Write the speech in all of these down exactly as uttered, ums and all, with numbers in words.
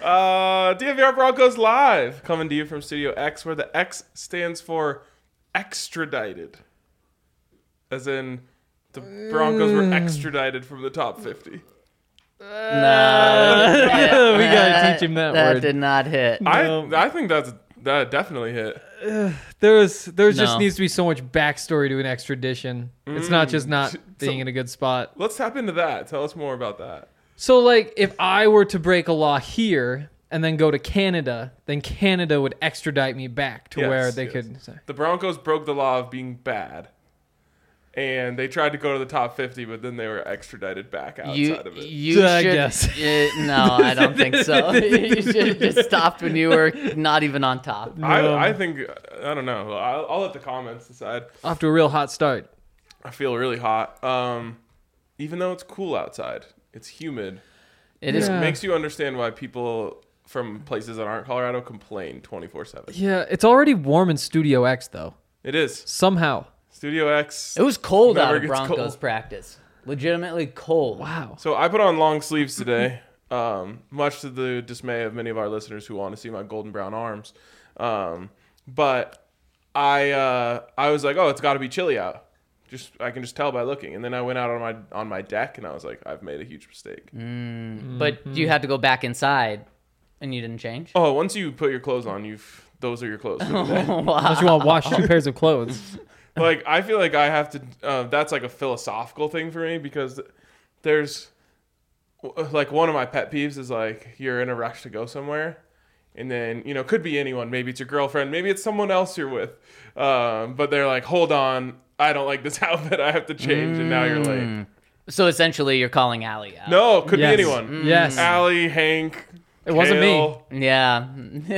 uh, D N V R Broncos Live, coming to you from Studio X, where the X stands for extradited. As in, the Broncos were extradited from the top fifty. No, yeah, we gotta teach him that, that word. did not hit. I I think that's that definitely hit. There's there's just No. needs to be so much backstory to an extradition. It's not just not being in a good spot. Let's tap into that. Tell us more about that. So, like, if I were to break a law here and then go to Canada, then Canada would extradite me back to Yes, where they yes. could say. The Broncos broke the law of being bad, and they tried to go to the top fifty, but then they were extradited back outside You, of it. you I should. guess. Uh, no, I don't think so. You should have just stopped when you were not even on top. No. I, I think, I don't know. I'll, I'll let the comments decide. Off to a real hot start. I feel really hot. Um, even though it's cool outside, it's humid. It It is. Yeah. makes you understand why people from places that aren't Colorado complain twenty-four seven. Yeah, it's already warm in Studio X, though. It is. Somehow. Studio X. It was cold Never out of gets Broncos cold. practice. Legitimately cold. Wow. So I put on long sleeves today, um, much to the dismay of many of our listeners who want to see my golden brown arms. Um, but I uh, I was like, oh, it's got to be chilly out. Just I can just tell by looking. And then I went out on my on my deck and I was like, I've made a huge mistake. Mm. But you had to go back inside, and you didn't change. Oh, once you put your clothes on, you've those are your clothes for the day. Unless you want to wash two pairs of clothes. Like I feel like I have to. Uh, that's like a philosophical thing for me because there's like one of my pet peeves is like you're in a rush to go somewhere, and then you know could be anyone. Maybe it's your girlfriend. Maybe it's someone else you're with. Um, but they're like, hold on, I don't like this outfit. I have to change, and now you're late. So essentially, you're calling Allie out. No, could Yes. be anyone. Yes. Allie, Hank. It wasn't me. Kale. Yeah.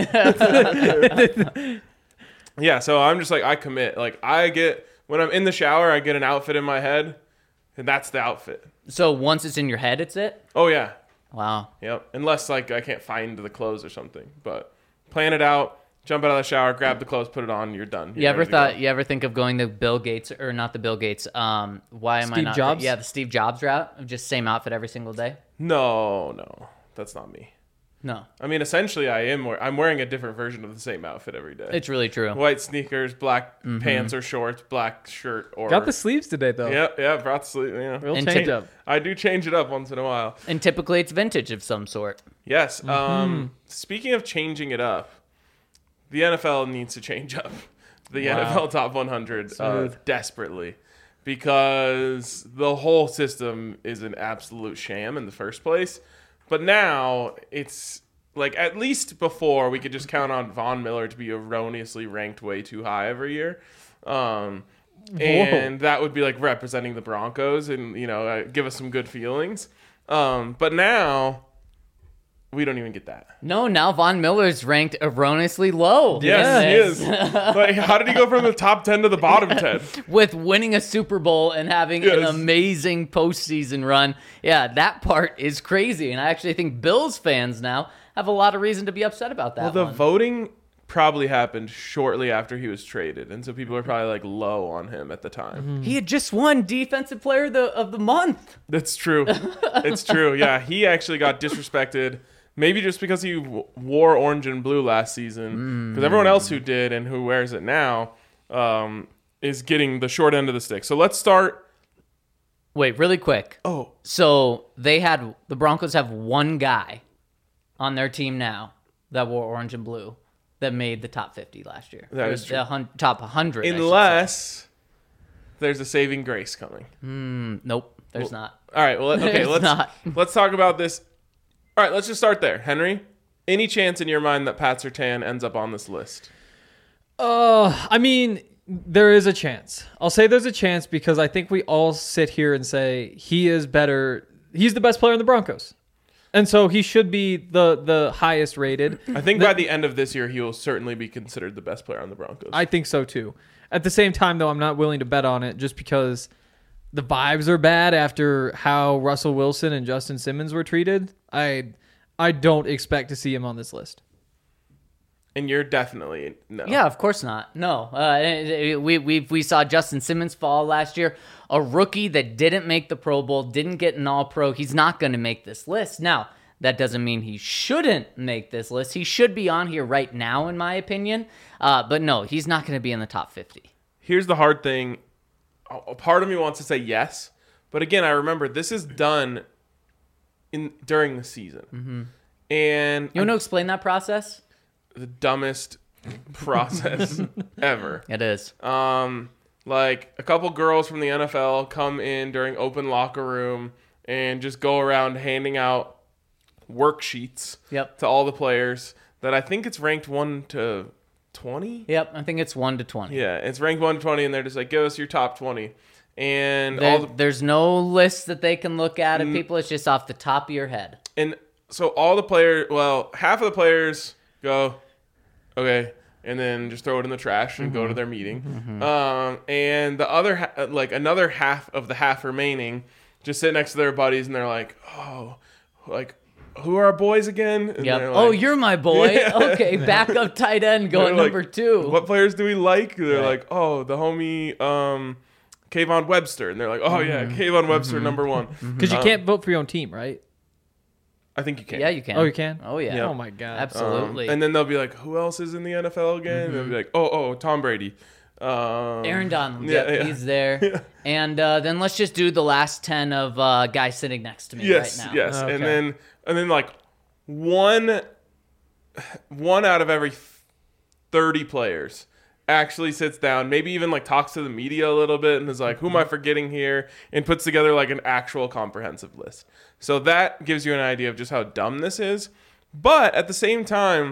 Yeah, so I'm just like I commit. Like I get when I'm in the shower, I get an outfit in my head, and that's the outfit. So once it's in your head, it's it. Oh yeah, Wow. yep. Unless like I can't find the clothes or something, but plan it out. Jump out of the shower, grab the clothes, put it on. You're done. You're You ever ready to thought? go. You ever think of going to Bill Gates or not the Bill Gates? Um, why am I Steve not? Jobs? Yeah, the Steve Jobs route of just same outfit every single day. No, no, that's not me. No, I mean, essentially, I am. Wear- I'm wearing a different version of the same outfit every day. it's really true. White sneakers, black pants or shorts, black shirt or. Got the sleeves today, though. Yeah, yeah, brought the sleeve. Yeah, Real And change ta- up. I do change it up once in a while. And typically, it's vintage of some sort. Yes. Mm-hmm. Um, speaking of changing it up, the N F L needs to change up the N F L Top one hundred uh, Smooth. desperately because the whole system is an absolute sham in the first place. But now it's like at least before we could just count on Von Miller to be erroneously ranked way too high every year. Um, and that would be like representing the Broncos and, you know, uh, give us some good feelings. Um, but now we don't even get that. No, now Von Miller's ranked erroneously low. Yes, in he this. is. Like, how did he go from the top ten to the bottom ten? With winning a Super Bowl and having an Yes. amazing postseason run. Yeah, that part is crazy. And I actually think Bills fans now have a lot of reason to be upset about that Well, the one. voting probably happened shortly after he was traded, and so people are probably like low on him at the time. He had just won Defensive Player of the, of the Month. That's true. It's true. Yeah, he actually got disrespected. Maybe just because he w- wore orange and blue last season, because everyone else who did and who wears it now um, is getting the short end of the stick. So let's start. Wait, really quick. Oh, So they had the Broncos have one guy on their team now that wore orange and blue that made the top fifty last year. That Or is true. the hun- top one hundred. I should say. unless there's a saving grace coming. Mm, nope, there's not. All right. Well, okay. There's let's not. let's talk about this. All right. Let's just start there, Henry. Any chance in your mind that Pat Surtain ends up on this list? Uh, I mean, there is a chance. I'll say there's a chance because I think we all sit here and say he is better. He's the best player in the Broncos. And so he should be the, the highest rated. I think by the end of this year, he will certainly be considered the best player on the Broncos. I think so too. At the same time, though, I'm not willing to bet on it just because the vibes are bad after how Russell Wilson and Justin Simmons were treated. I I don't expect to see him on this list. and you're definitely no. Yeah, of course not. No, uh, we we we saw Justin Simmons fall last year, a rookie that didn't make the Pro Bowl, didn't get an All Pro. He's not going to make this list. Now, That doesn't mean he shouldn't make this list. He should be on here right now, in my opinion. Uh, but no, he's not going to be in the top fifty. Here's the hard thing. A part of me wants to say yes, but again, I remember this is done in during the season, Mm-hmm. and You want to explain that process? the dumbest process ever. It is. Um, like a couple girls from the N F L come in during open locker room and just go around handing out worksheets Yep. to all the players that I think it's ranked one to twenty. Yep, I think it's one to twenty. Yeah, it's ranked one to twenty, and they're just like, give us your top twenty. And There- all the, there's no list that they can look at Mm. of people. It's just off the top of your head. and so all the players, well, half of the players go, okay, and then just throw it in the trash and go to their meeting. Um, and the other, ha- like another half of the half remaining, just sit next to their buddies, and they're like, oh, like, who are our boys again? And Yep. they're Oh, like- you're my boy. Yeah. Okay, backup tight end going They're like, number two. What players do we like? They're Right. like, oh, the homie um, Kayvon Webster. And they're like, oh, yeah, Kayvon Webster, number one. Because you Um, can't vote for your own team, right? I think you can. Yeah, you can. Oh, you can? Oh, yeah. Yeah. Oh my god. Um, Absolutely. and then they'll be like, who else is in the N F L again? And they'll be like, oh, oh, Tom Brady. Um, Aaron Donald. yeah, Yep, yeah. he's there. And uh, then let's just do the last ten of uh, guys sitting next to me Yes, right now. yes. Okay. And then, and then like one, one out of every thirty players actually sits down, maybe even like talks to the media a little bit and is like, who am I forgetting here? And puts together like an actual comprehensive list. So that gives you an idea of just how dumb this is. But at the same time,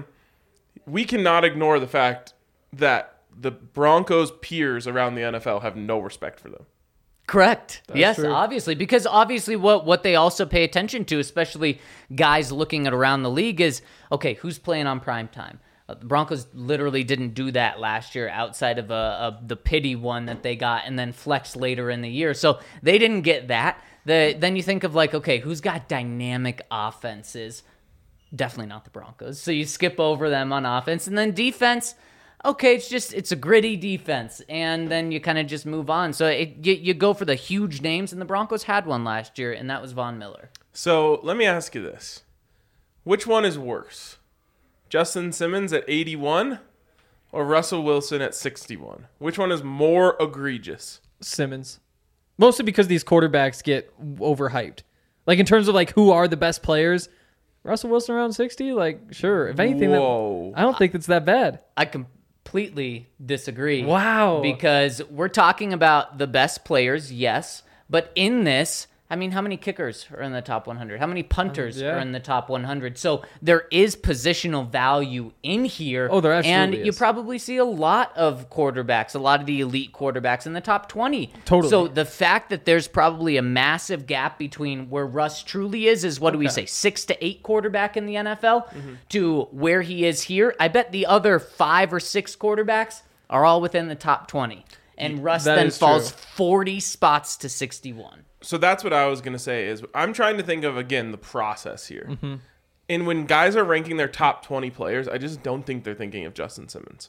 we cannot ignore the fact that the Broncos' peers around the N F L have no respect for them. Correct. yes, true. obviously. Because obviously what, what they also pay attention to, especially guys looking at around the league, is, okay, who's playing on prime time? Uh, the Broncos literally didn't do that last year outside of, a, of the pity one that they got and then flexed later in the year. So they didn't get that. The, then you think of like, okay, who's got dynamic offenses? Definitely not the Broncos. So you skip over them on offense. And then defense, okay, it's just, it's a gritty defense. And then you kind of just move on. So it, you, you go for the huge names, and the Broncos had one last year, and that was Von Miller. So let me ask you this. Which one is worse? Justin Simmons at eighty-one or Russell Wilson at sixty-one? Which one is more egregious? Simmons. Mostly because these quarterbacks get overhyped. Like in terms of like who are the best players, Russell Wilson around sixty, like sure. If anything, that, Whoa. I don't think it's that bad. I completely disagree. Wow. Because we're talking about the best players, yes. But in this, I mean, how many kickers are in the top one hundred? How many punters Uh, yeah. are in the top one hundred? So there is positional value in here. Oh, there absolutely And you is. probably see a lot of quarterbacks, a lot of the elite quarterbacks in the top twenty. Totally. So the fact that there's probably a massive gap between where Russ truly is, is what do we say, six to eight quarterback in the N F L, Mm-hmm. to where he is here. I bet the other five or six quarterbacks are all within the top twenty. And Russ That then is falls true. forty spots to sixty-one. So that's what I was going to say is I'm trying to think of, again, the process here. And when guys are ranking their top twenty players, I just don't think they're thinking of Justin Simmons.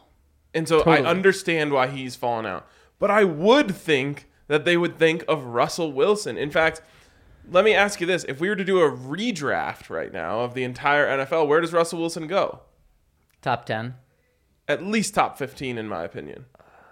And so Totally. I understand why he's fallen out. But I would think that they would think of Russell Wilson. In fact, let me ask you this. If we were to do a redraft right now of the entire N F L, where does Russell Wilson go? Top ten. At least top fifteen, in my opinion.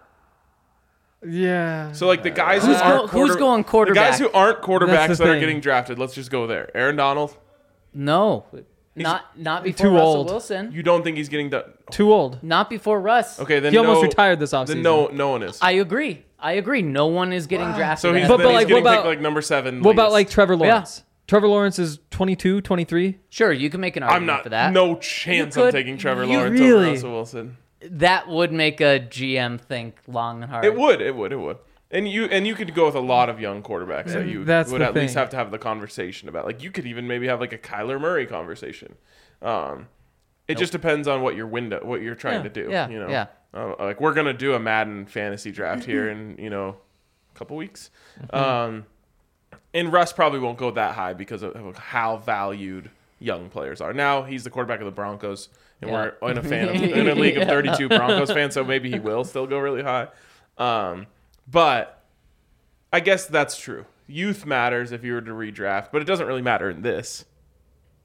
Yeah. So, like, the guys Who's who aren't go- who's quarter- going The quarterback? guys who aren't quarterbacks That's the that are thing. getting drafted, let's just go there. Aaron Donald, No. Not not before too Russell old. Wilson. you don't think he's getting done? Too old. Not before Russ. Okay, then He almost no- retired this Then offseason. no, no one is. I agree. I agree. No one is getting drafted. So he's, as But- then but he's like, getting what picked about- like number seven. What about like latest. Trevor Lawrence? Trevor Lawrence is twenty-two, twenty-three. Sure, you can make an argument I'm not. for that. No chance You I'm could- taking Trevor you Lawrence really- over Russell Wilson. That would make a G M think long and hard. It would. It would. It would. And you and you could go with a lot of young quarterbacks that you That's would the at least thing. have to have the conversation about. Like you could even maybe have like a Kyler Murray conversation. Um, it just depends on what your window, what you're trying Yeah, to do. yeah, you know, yeah. Uh, like we're gonna do a Madden fantasy draft here in you know a couple weeks. Um, and Russ probably won't go that high because of, of how valued young players are. Now he's the quarterback of the Broncos, and Yeah. we're in a fan of, in a league of Yeah. thirty-two Broncos fans, so maybe he will still go really high. Um, but I guess that's true. Youth matters if you were to redraft, but it doesn't really matter in this.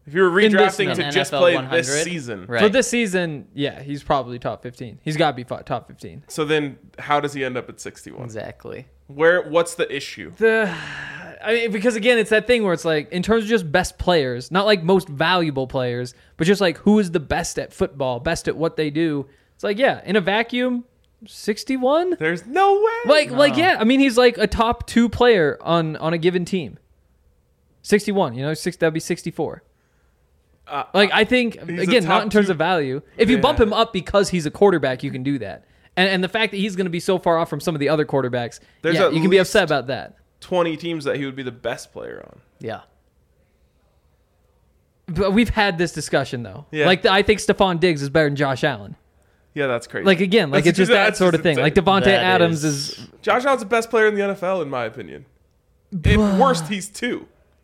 If you were In this redrafting to N F L just play one hundred, this season, right. For this season, yeah, he's probably top fifteen. He's got to be fi- top fifteen. so then how does he end up at sixty-one? Exactly. Where? What's the issue? The, I mean, because again, it's that thing where it's like, in terms of just best players, not like most valuable players, but just like who is the best at football, best at what they do. It's like, yeah, in a vacuum, sixty-one. There's no way. Like, like, yeah. I mean, he's like a top two player on on a given team. sixty-one. You know, six. That'd be sixty-four. Uh, Like, I think He's a again, not top in terms two- of value. If you bump Yeah. him up because he's a quarterback, you can do that. And and the fact that he's going to be so far off from some of the other quarterbacks, There's yeah, at you can be least- upset about that. twenty teams that he would be the best player on. Yeah. But we've had this discussion though. Yeah. Like I think Stephon Diggs is better than Josh Allen. Yeah, that's crazy. Like again, like That's it's just that that's sort of just thing. Like insane. Devontae That Adams is- is. Josh Allen's the best player in the N F L in my opinion. At worst, he's two.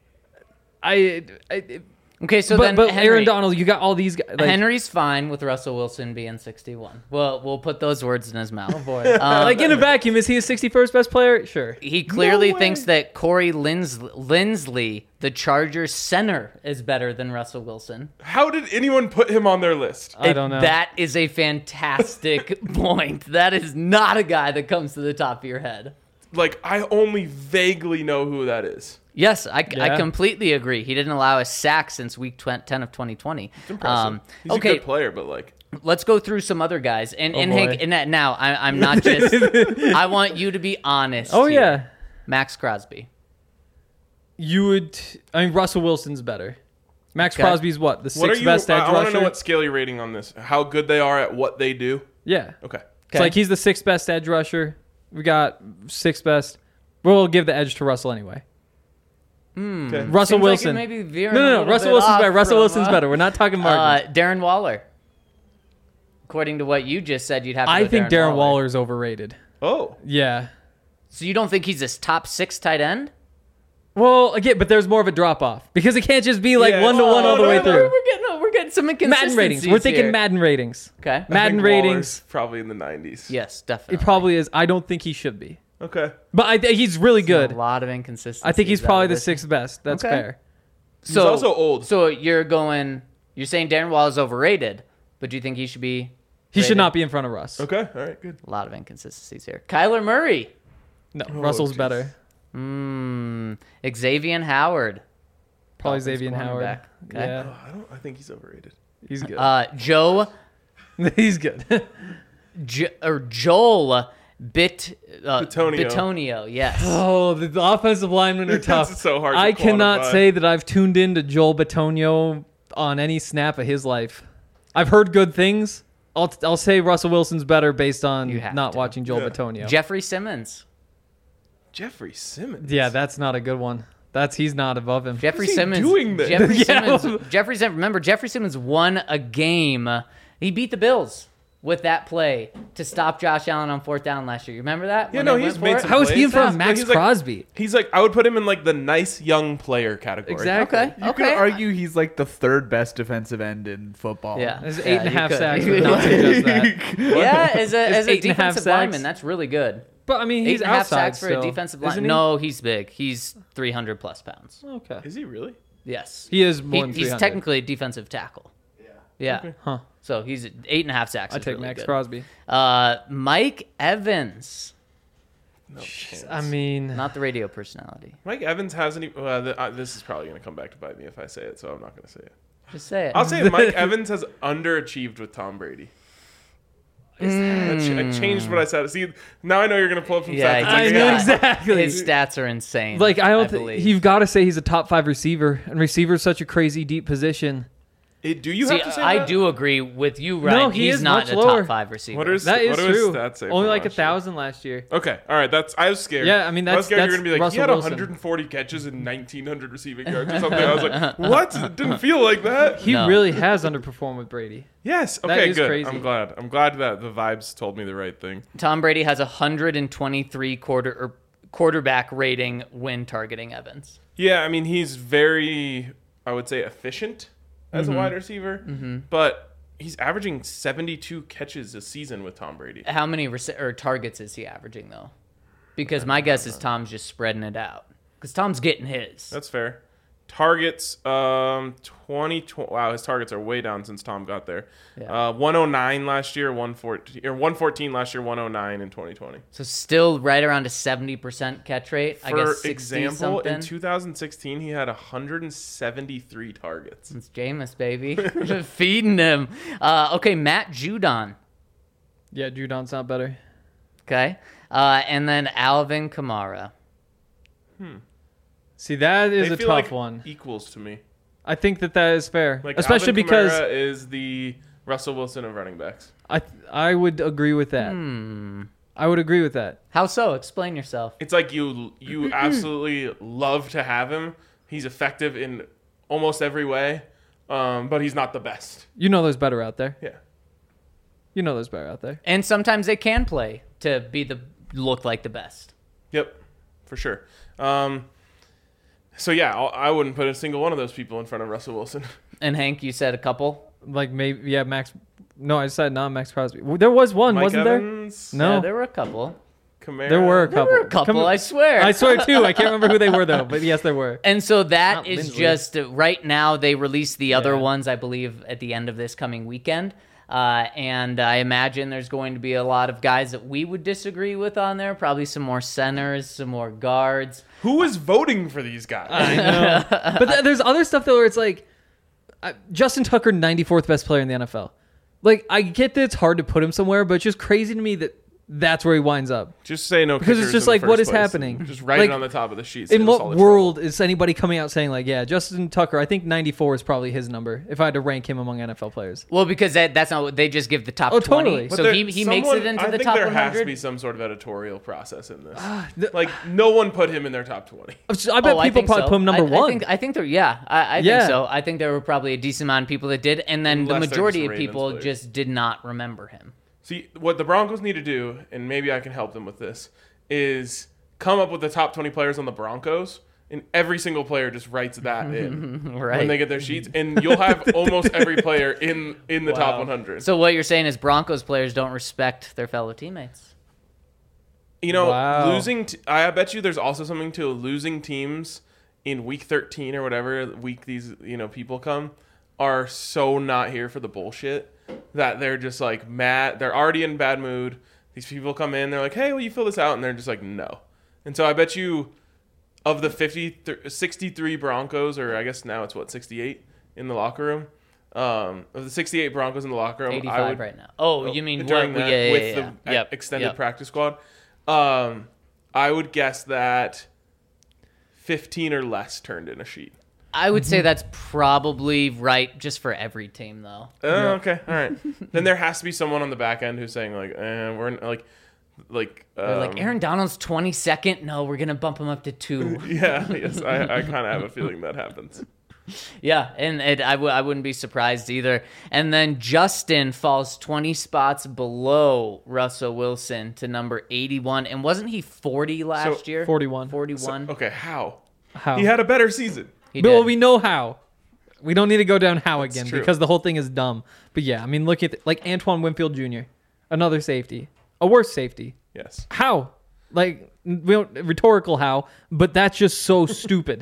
I, I Okay, so but then but Henry, Aaron Donald, you got all these guys. Like, Henry's fine with Russell Wilson being sixty-one. Well, we'll put those words in his mouth. Oh boy. Um, like in a vacuum, is he a sixty-first best player? Sure. He clearly way. thinks that Corey Lins- Lindsley, the Chargers center, is better than Russell Wilson. How did anyone put him on their list? I It- don't know. That is a fantastic point. That is not a guy that comes to the top of your head. Like, I only vaguely know who that is. Yes, I, I Yeah. completely agree. He didn't allow a sack since week tw- ten of twenty twenty. It's impressive. Um, he's okay, a good player, but like, let's go through some other guys. And, Oh, and boy. Hank, and that- now I, I'm not just. I want you to be honest. Oh here. yeah. Max Crosby. You would. I mean, Russell Wilson's better. Max Okay. Crosby's what the what are sixth you? best edge I, I want to rusher. know what scale you're rating on this. How good they are at what they do. Yeah. Okay. It's like he's the sixth best edge rusher. We got sixth best. We'll give the edge to Russell anyway. Okay. Russell Seems Wilson. Like it may be veering no, a no, no. little Russell bit Wilson's off better. Russell from, Wilson's uh, better. We're not talking Uh, margins. Darren Waller. According to what you just said, you'd have to I go think Darren, Darren Waller. Waller's overrated. Oh. Yeah. So you don't think he's a top six tight end? Well, again, but there's more of a drop off because it can't just be like Yeah. one to one Oh, all the no, way no, through. We're getting, we're getting some inconsistencies Madden ratings. We're thinking here. Madden ratings. Okay. I Madden think ratings. Waller's probably in the nineties. Yes, He definitely. probably is. I don't think he should be, Okay. but I think he's really good. A lot of inconsistencies. I think he's out probably of the this. sixth best. That's Okay. fair. He's also old. So you're going. You're saying Darren Waller's overrated, but do you think he should be? He should rated? not be in front of Russ. Okay. All right. Good. A lot of inconsistencies here. Kyler Murray. No, Russell's jeez. better. Hmm. Xavier Howard. Probably Dolphins Xavier Howard. cornerback. Okay. Oh, Yeah, I don't. I think he's overrated. he's good. Uh, Joe he's good. jo- or Joel Bit uh, Bitonio. Bitonio. Yes. Oh, the, the offensive linemen are tough. It's so hard to I cannot quantify. say that I've tuned into Joel Bitonio on any snap of his life. I've heard good things. I'll I'll say Russell Wilson's better based on You have not to. watching Joel Yeah. Bitonio. Jeffrey Simmons. Jeffrey Simmons. Yeah, that's not a good one. That's he's not above him. Jeffrey is he Simmons. doing then? Jeffrey Yeah. Simmons. Jeffrey Simmons. Remember, Jeffrey Simmons won a game. He beat the Bills with that play to stop Josh Allen on fourth down last year. You remember that? Yeah, When no, they he's went made for it? some How is he in plays. front of Yeah, Max he's like- Crosby? He's like, I would put him in like the nice young player category. Exactly. Okay. You okay. could argue he's like the third best defensive end in football. Yeah. There's Yeah, eight and a you half could. sacks. You Would could. not suggest that. Yeah, as a as a eight and a half defensive sacks. lineman, that's really good. But I mean, Eight he's and a half outside sacks for still, a defensive isn't line. he? No, he's big. He's three hundred plus pounds. Okay. Is he really? Yes. He is He- more than he's three hundred. technically a defensive tackle. Yeah. Yeah. Huh. So he's eight and a half sacks. I is take really Max good. Crosby. Uh, Mike Evans, No chance. I mean, not the radio personality. Mike Evans hasn't even. Uh, th- uh, this is probably going to come back to bite me if I say it, so I'm not going to say it. Just say it. I'll say Mike Evans has underachieved with Tom Brady. I, ch- I changed what I said. See, now I know you're going to pull up some Yeah, stats. It's I like, know yeah. exactly. His stats are insane. Like I don't believe. think you've got to say he's a top five receiver, and receiver is such a crazy deep position. It- do you See, have to say I that? do agree with you, Ryan. No, he He's is not much a lower. top five receiver. What is That is what do his true. stats say Only from like a last year? thousand last year. Okay, all right. That's I was scared. Yeah, I mean, I was that's- scared you were that's gonna be like Russell he had Wilson. one hundred forty catches and nineteen hundred receiving yards or something. I was like, what? It didn't feel like that. He No. really has underperformed with Brady. Yes. That Okay. is Good. crazy. I'm glad. I'm glad that the vibes told me the right thing. Tom Brady has a one hundred twenty-three quarter or quarterback rating when targeting Evans. Yeah. I mean, he's very, I would say, efficient as a wide receiver, but he's averaging seventy-two catches a season with Tom Brady. How many rece- or targets is he averaging though? Because my guess is Tom's just spreading it out. Because Tom's getting his. That's fair. Targets, um, twenty, twenty. Wow, his targets are way down since Tom got there. Yeah. Uh, one oh nine last year, one fourteen, or one fourteen last year, one oh nine in twenty twenty. So still right around a seventy percent catch rate. I For guess sixty example, something. in two thousand sixteen, he had one hundred seventy-three targets. It's Jameis, baby. Feeding him. Uh, okay, Matt Judon. Yeah, Judon's not better. Okay. Uh, and then Alvin Kamara. See, that is They a feel tough like one. equals to me. I think that that is fair, Like especially Alvin because Kamara is the Russell Wilson of running backs. I I would agree with that. Hmm. I would agree with that. How so? Explain yourself. It's like you you absolutely love to have him. He's effective in almost every way, um, but he's not the best. You know, there's better out there. Yeah. You know, there's better out there. And sometimes they can play to be the look like the best. Yep, for sure. Um, so yeah, I'll, I wouldn't put a single one of those people in front of Russell Wilson. And Hank, you said a couple. Like maybe yeah, Max. No, I said not Max Crosby. There was one, Mike wasn't Evans, there? No, Yeah, there were a couple. Kamara. there were a There couple. were a couple, Come- I swear. I swear too. I can't remember who they were though, but yes, there were. And so that Not is Lindsley. just uh, right now. They released the other Yeah. ones, I believe, at the end of this coming weekend. Uh, and I imagine there's going to be a lot of guys that we would disagree with on there. Probably some more centers, some more guards. Who is voting for these guys? I know. But th- there's other stuff though where it's like uh, Justin Tucker, ninety-fourth best player in the N F L. Like I get that it's hard to put him somewhere, but it's just crazy to me that that's where he winds up. Just say no Because it's kickers just in the like, what first is place. happening? Just write Like, it on the top of the sheet. In save us what all the world is anybody coming out saying like, yeah, Justin Tucker? I think ninety-four is probably his number if I had to rank him among N F L players. Well, because that, that's not what they just give the top Oh, twenty. totally. But So there- he, he makes someone- it into I the think top there one has to hundred. be some sort of editorial process in this. the- like no one put him in their top twenty. I bet Oh, people think probably so. put him number I, one. I think, I think there, yeah, I, I Yeah. think so. I think there were probably a decent amount of people that did, and then Unless the they're majority just of Ravens people players. just did not remember him. See, what the Broncos need to do, and maybe I can help them with this, is come up with the top twenty players on the Broncos, and every single player just writes that in Right. when they get their sheets, and you'll have almost every player in in the top Wow. one hundred. So what you're saying is Broncos players don't respect their fellow teammates. You know, Wow. losing. T- I bet you there's also something to losing teams in week thirteen or whatever week these you know people come are so not here for the bullshit that they're just like mad. They're already in bad mood. These people come in, they're like, "Hey, will you fill this out?" And they're just like, "No." And so I bet you, of the fifty, sixty-three Broncos, or I guess now it's what sixty-eight in the locker room. Um, of the sixty-eight Broncos in the locker room, I eighty-five would right now. Oh, you mean during what, that yeah, yeah, with yeah, the yeah. e- Yep, extended yep. practice squad. Um, I would guess that fifteen or less turned in a sheet. I would say that's probably right just for every team, though. Oh, okay, all right. Then there has to be someone on the back end who's saying like, eh, we're n- like, like, um, They're like, Aaron Donald's twenty-second? No, we're going to bump him up to two. Yeah, yes, I, I kind of have a feeling that happens. Yeah, and it, I, w- I wouldn't be surprised either. And then Justin falls twenty spots below Russell Wilson to number eighty-one. And wasn't he forty last So, year? forty-one. forty-one. Okay, how? How? He had a better season. He Well, did. we know how. We don't need to go down how again true. because the whole thing is dumb. But yeah, I mean, look at like Antoine Winfield Junior, another safety, a worse safety. Yes. How? Like we don't rhetorical how, but that's just so stupid.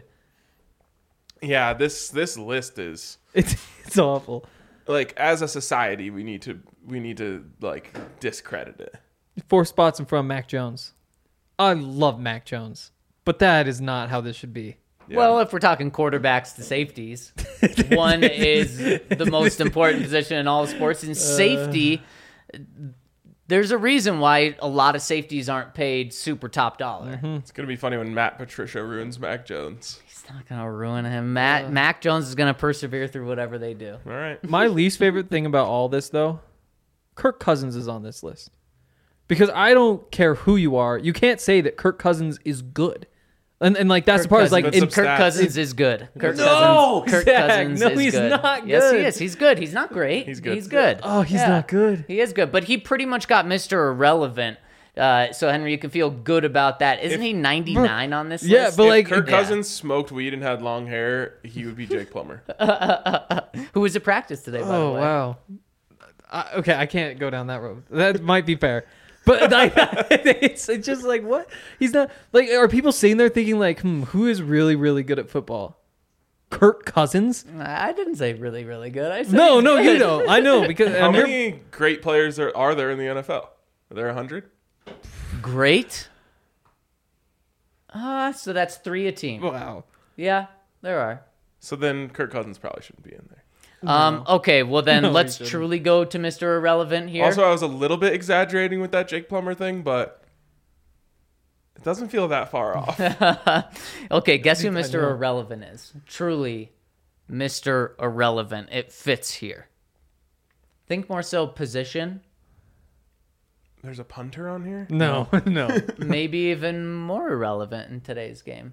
Yeah, this this list is It's it's awful. like as a society we need to we need to like discredit it. Four spots in front of Mac Jones. I love Mac Jones, but that is not how this should be. Yeah. Well, if we're talking quarterbacks to safeties, one is the most important position in all of sports. In safety, there's a reason why a lot of safeties aren't paid super top dollar. It's gonna be funny when Matt Patricia ruins Mac Jones. It's not going to ruin him. Matt Mac Jones is going to persevere through whatever they do. All right. My least favorite thing about all this, though, Kirk Cousins is on this list. Because I don't care who you are, you can't say that Kirk Cousins is good. And, and like, that's Kirk the part is like, Cousins- in, But some Kirk stats. Cousins is good. Kirk No, Cousins, Kirk Zach, Cousins no, is he's good. not Yes, he good. is. He's good. He's not great. He's good. He's good. oh, he's Yeah. not good. He is good, but he pretty much got Mister Irrelevant. Uh, so Henry, you can feel good about that. Isn't If- he ninety-nine on this Yeah, list? but If like, Kirk Yeah. Cousins smoked weed and had long hair, he would be Jake Plummer. Who was at practice today? By the oh way. wow. I, okay, I can't go down that road. That might be fair. But I, it's, it's just like, what? He's not like. Are people sitting there thinking like, hmm, who is really really good at football? Kirk Cousins. I didn't say really, really good. I said No, he's no, good. you don't. I know because How and you're- many great players are, are there in the N F L? Are there a hundred? Great. Ah, so that's three a team. Wow. Yeah, there are. So then Kirk Cousins probably shouldn't be in there. Um, okay, well then No, he let's shouldn't. truly go to Mister Irrelevant here. Also, I was a little bit exaggerating with that Jake Plummer thing, but it doesn't feel that far off. Okay, guess who Mister know. Irrelevant is? Truly, Mister Irrelevant. It fits here. Think more so position, There's a punter on here? No, no. maybe even more irrelevant in today's game.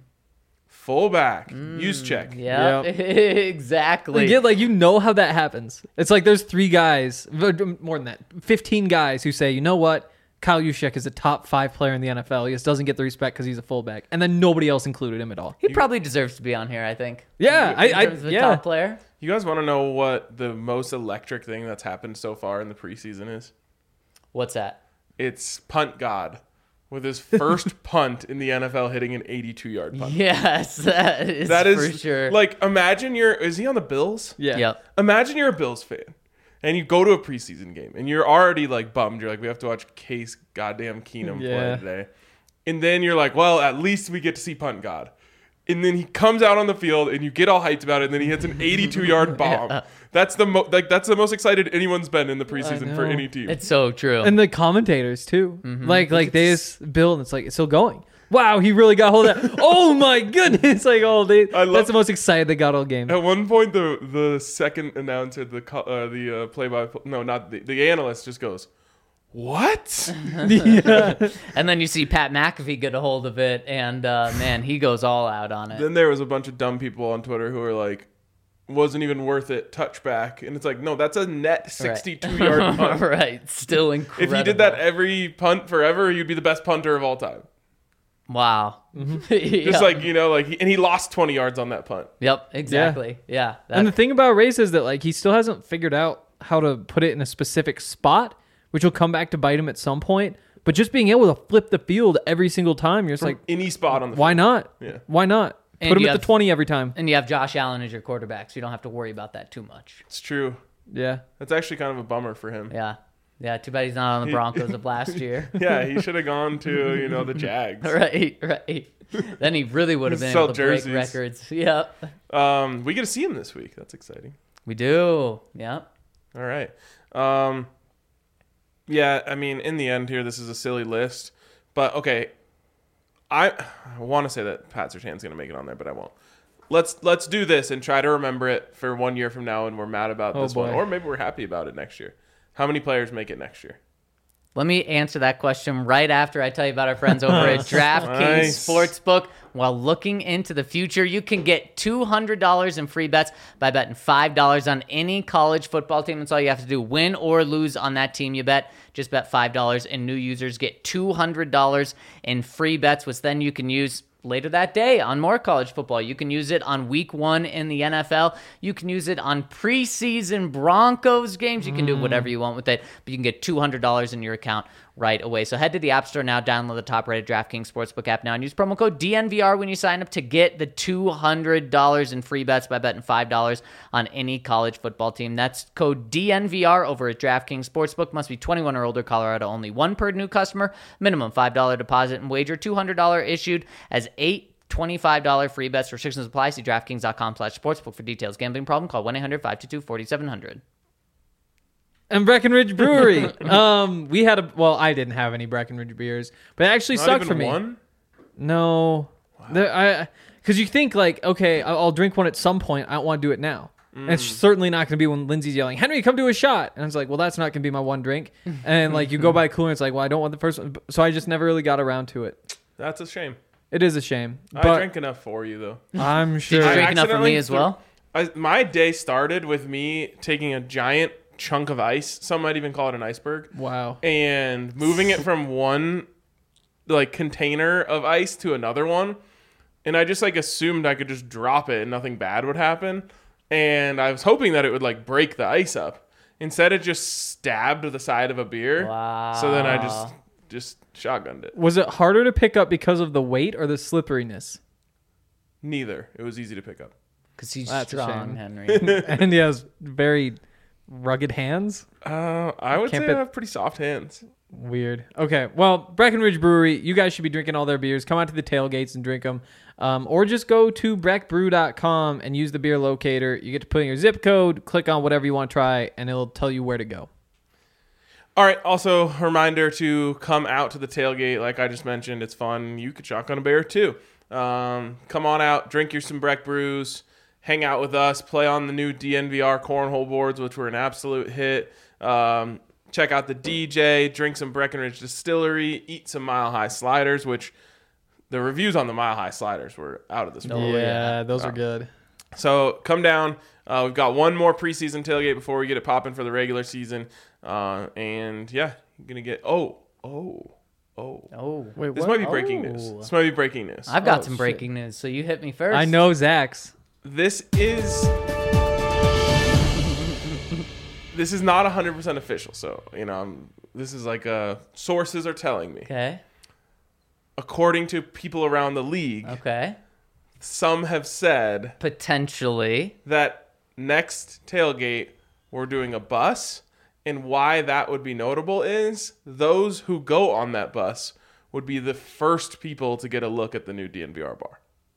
Fullback. Use check. Yeah, exactly. Like, yeah, like you know how that happens. It's like there's three guys, more than that, fifteen guys who say, you know what, Kyle Juszczyk is a top five player in the N F L. He just doesn't get the respect because he's a fullback, and then nobody else included him at all. He probably deserves to be on here, I think. Yeah, in, I- in I- terms of a yeah. top player. You guys want to know what the most electric thing that's happened so far in the preseason is? What's that? It's Punt God with his first punt in the N F L hitting an eighty-two yard punt. Yes, that is That is for sure. like, imagine you're, is he on the Bills? Yeah. Yep. Imagine you're a Bills fan and you go to a preseason game and you're already like bummed. You're like, we have to watch Case goddamn Keenum Yeah. play today. And then you're like, well, at least we get to see Punt God. And then he comes out on the field and you get all hyped about it and then he hits an eighty-two yard bomb. That's the mo- like that's the most excited anyone's been in the preseason for know. any team. It's so true. And the commentators too, Mm-hmm. like like they just build. And it's like it's still going. Wow, he really got hold of that. Oh my goodness! Like oh, they, I love- that's the most excited they got all game. At one point, the the second announcer, the co- uh, the uh, play by no, not the, the analyst, just goes, "What?" Yeah. And then you see Pat McAfee get a hold of it, and uh, man, he goes all out on it. Then there was a bunch of dumb people on Twitter who were like, "Wasn't even worth it." Touchback, and it's like, no, that's a net sixty-two yard punt. Right, still If incredible. you did that every punt forever, you'd be the best punter of all time. wow. Just like you know, like, he, and he lost twenty yards on that punt. Yep, exactly. Yeah. that- And the thing about Race is that like he still hasn't figured out how to put it in a specific spot, which will come back to bite him at some point. But just being able to flip the field every single time, you're just like, Any spot on the why field. not? Yeah. Why not? And Put him you at have- the twenty every time. and you have Josh Allen as your quarterback, so you don't have to worry about that too much. It's true. Yeah. That's actually kind of a bummer for him. Yeah. Yeah, too bad he's not on the Broncos of last year. Yeah, he should have gone to you know the Jags. Right, right. Then he really would have been Sell able to break jerseys. records. Yep. Um, we get to see him this week. That's exciting. We do. Yep. All right. Um, yeah, I mean, in the end here, this is a silly list. But, okay, I, I want to say that Pat Surtain's going to make it on there, but I won't. Let's let's do this and try to remember it for one year from now, and we're mad about Oh, this one. boy. Or maybe we're happy about it next year. How many players make it next year? Let me answer that question right after I tell you about our friends over at DraftKings Nice. Sportsbook. While looking into the future, you can get two hundred dollars in free bets by betting five dollars on any college football team. That's all you have to do. Win or lose on that team you bet. Just bet five dollars, and new users get two hundred dollars in free bets, which then you can use later that day on more college football. You can use it on week one in the N F L. You can use it on preseason Broncos games. You can do whatever you want with it, but you can get two hundred dollars in your account right away. So head to the App Store now, download the top-rated DraftKings Sportsbook app now, and use promo code D N V R when you sign up to get the two hundred dollars in free bets by betting five dollars on any college football team. That's code D N V R over at DraftKings Sportsbook. Must be twenty-one or older, Colorado only. One per new customer, minimum five dollars deposit and wager, two hundred dollars issued as eight twenty-five dollars free bets. Restrictions apply. See DraftKings.com slash sportsbook for details. Gambling problem? Call one eight hundred five two two four seven zero zero. And Breckenridge Brewery. um, we had a well, I didn't have any Breckenridge beers, but it actually Not sucked even for me. one? No, There- I because you think like, okay, I'll I'll drink one at some point. I don't want to do it now. And it's certainly not going to be when Lindsay's yelling, "Henry, come do a shot!" And it's like, well, that's not going to be my one drink. And like, you go by cooler, and it's like, well, I don't want the first one. So I just never really got around to it. That's a shame. It is a shame, I but drank enough for you, though. I'm sure. Did you I drink enough for accidentally me as threw- well? I, my day started with me taking a giant chunk of ice. Some might even call it an iceberg. Wow. And moving it from one like container of ice to another one, and I just like assumed I could just drop it and nothing bad would happen, and I was hoping that it would like break the ice up. Instead, it just stabbed the side of a beer. Wow. So then I just just shotgunned it. Was it harder to pick up because of the weight or the slipperiness? Neither. It was easy to pick up. Because he's That's a strong, shame. Henry. And he has very rugged hands. Uh, I would Can't say bet- I have pretty soft hands. Weird. Okay. Well, Breckenridge Brewery, you guys should be drinking all their beers. Come out to the tailgates and drink them. Um, or just go to breck brew dot com and use the beer locator. You get to put in your zip code, click on whatever you want to try, and it'll tell you where to go. All right. Also, a reminder to come out to the tailgate. Like I just mentioned, it's fun. You could shotgun a beer too. Um, come on out, drink your some Breck brews, hang out with us, play on the new D N V R cornhole boards, which were an absolute hit. Um, check out the D J, drink some Breckenridge Distillery, eat some Mile High Sliders, which the reviews on the Mile High Sliders were out of this world. Oh, yeah. those are good. So come down. Uh, we've got one more preseason tailgate before we get it popping for the regular season. Uh, and yeah, you're going to get, oh, oh, oh. Oh, Wait, This what? might be breaking Oh. news. This might be breaking news. I've got Oh, some shit. breaking news, so you hit me first. I know Zach's. This is this is not one hundred percent official. So, you know, I'm, this is like uh, sources are telling me. Okay. According to people around the league, Okay. some have said Potentially. that next tailgate we're doing a bus, and why that would be notable is those who go on that bus would be the first people to get a look at the new D N V R bar.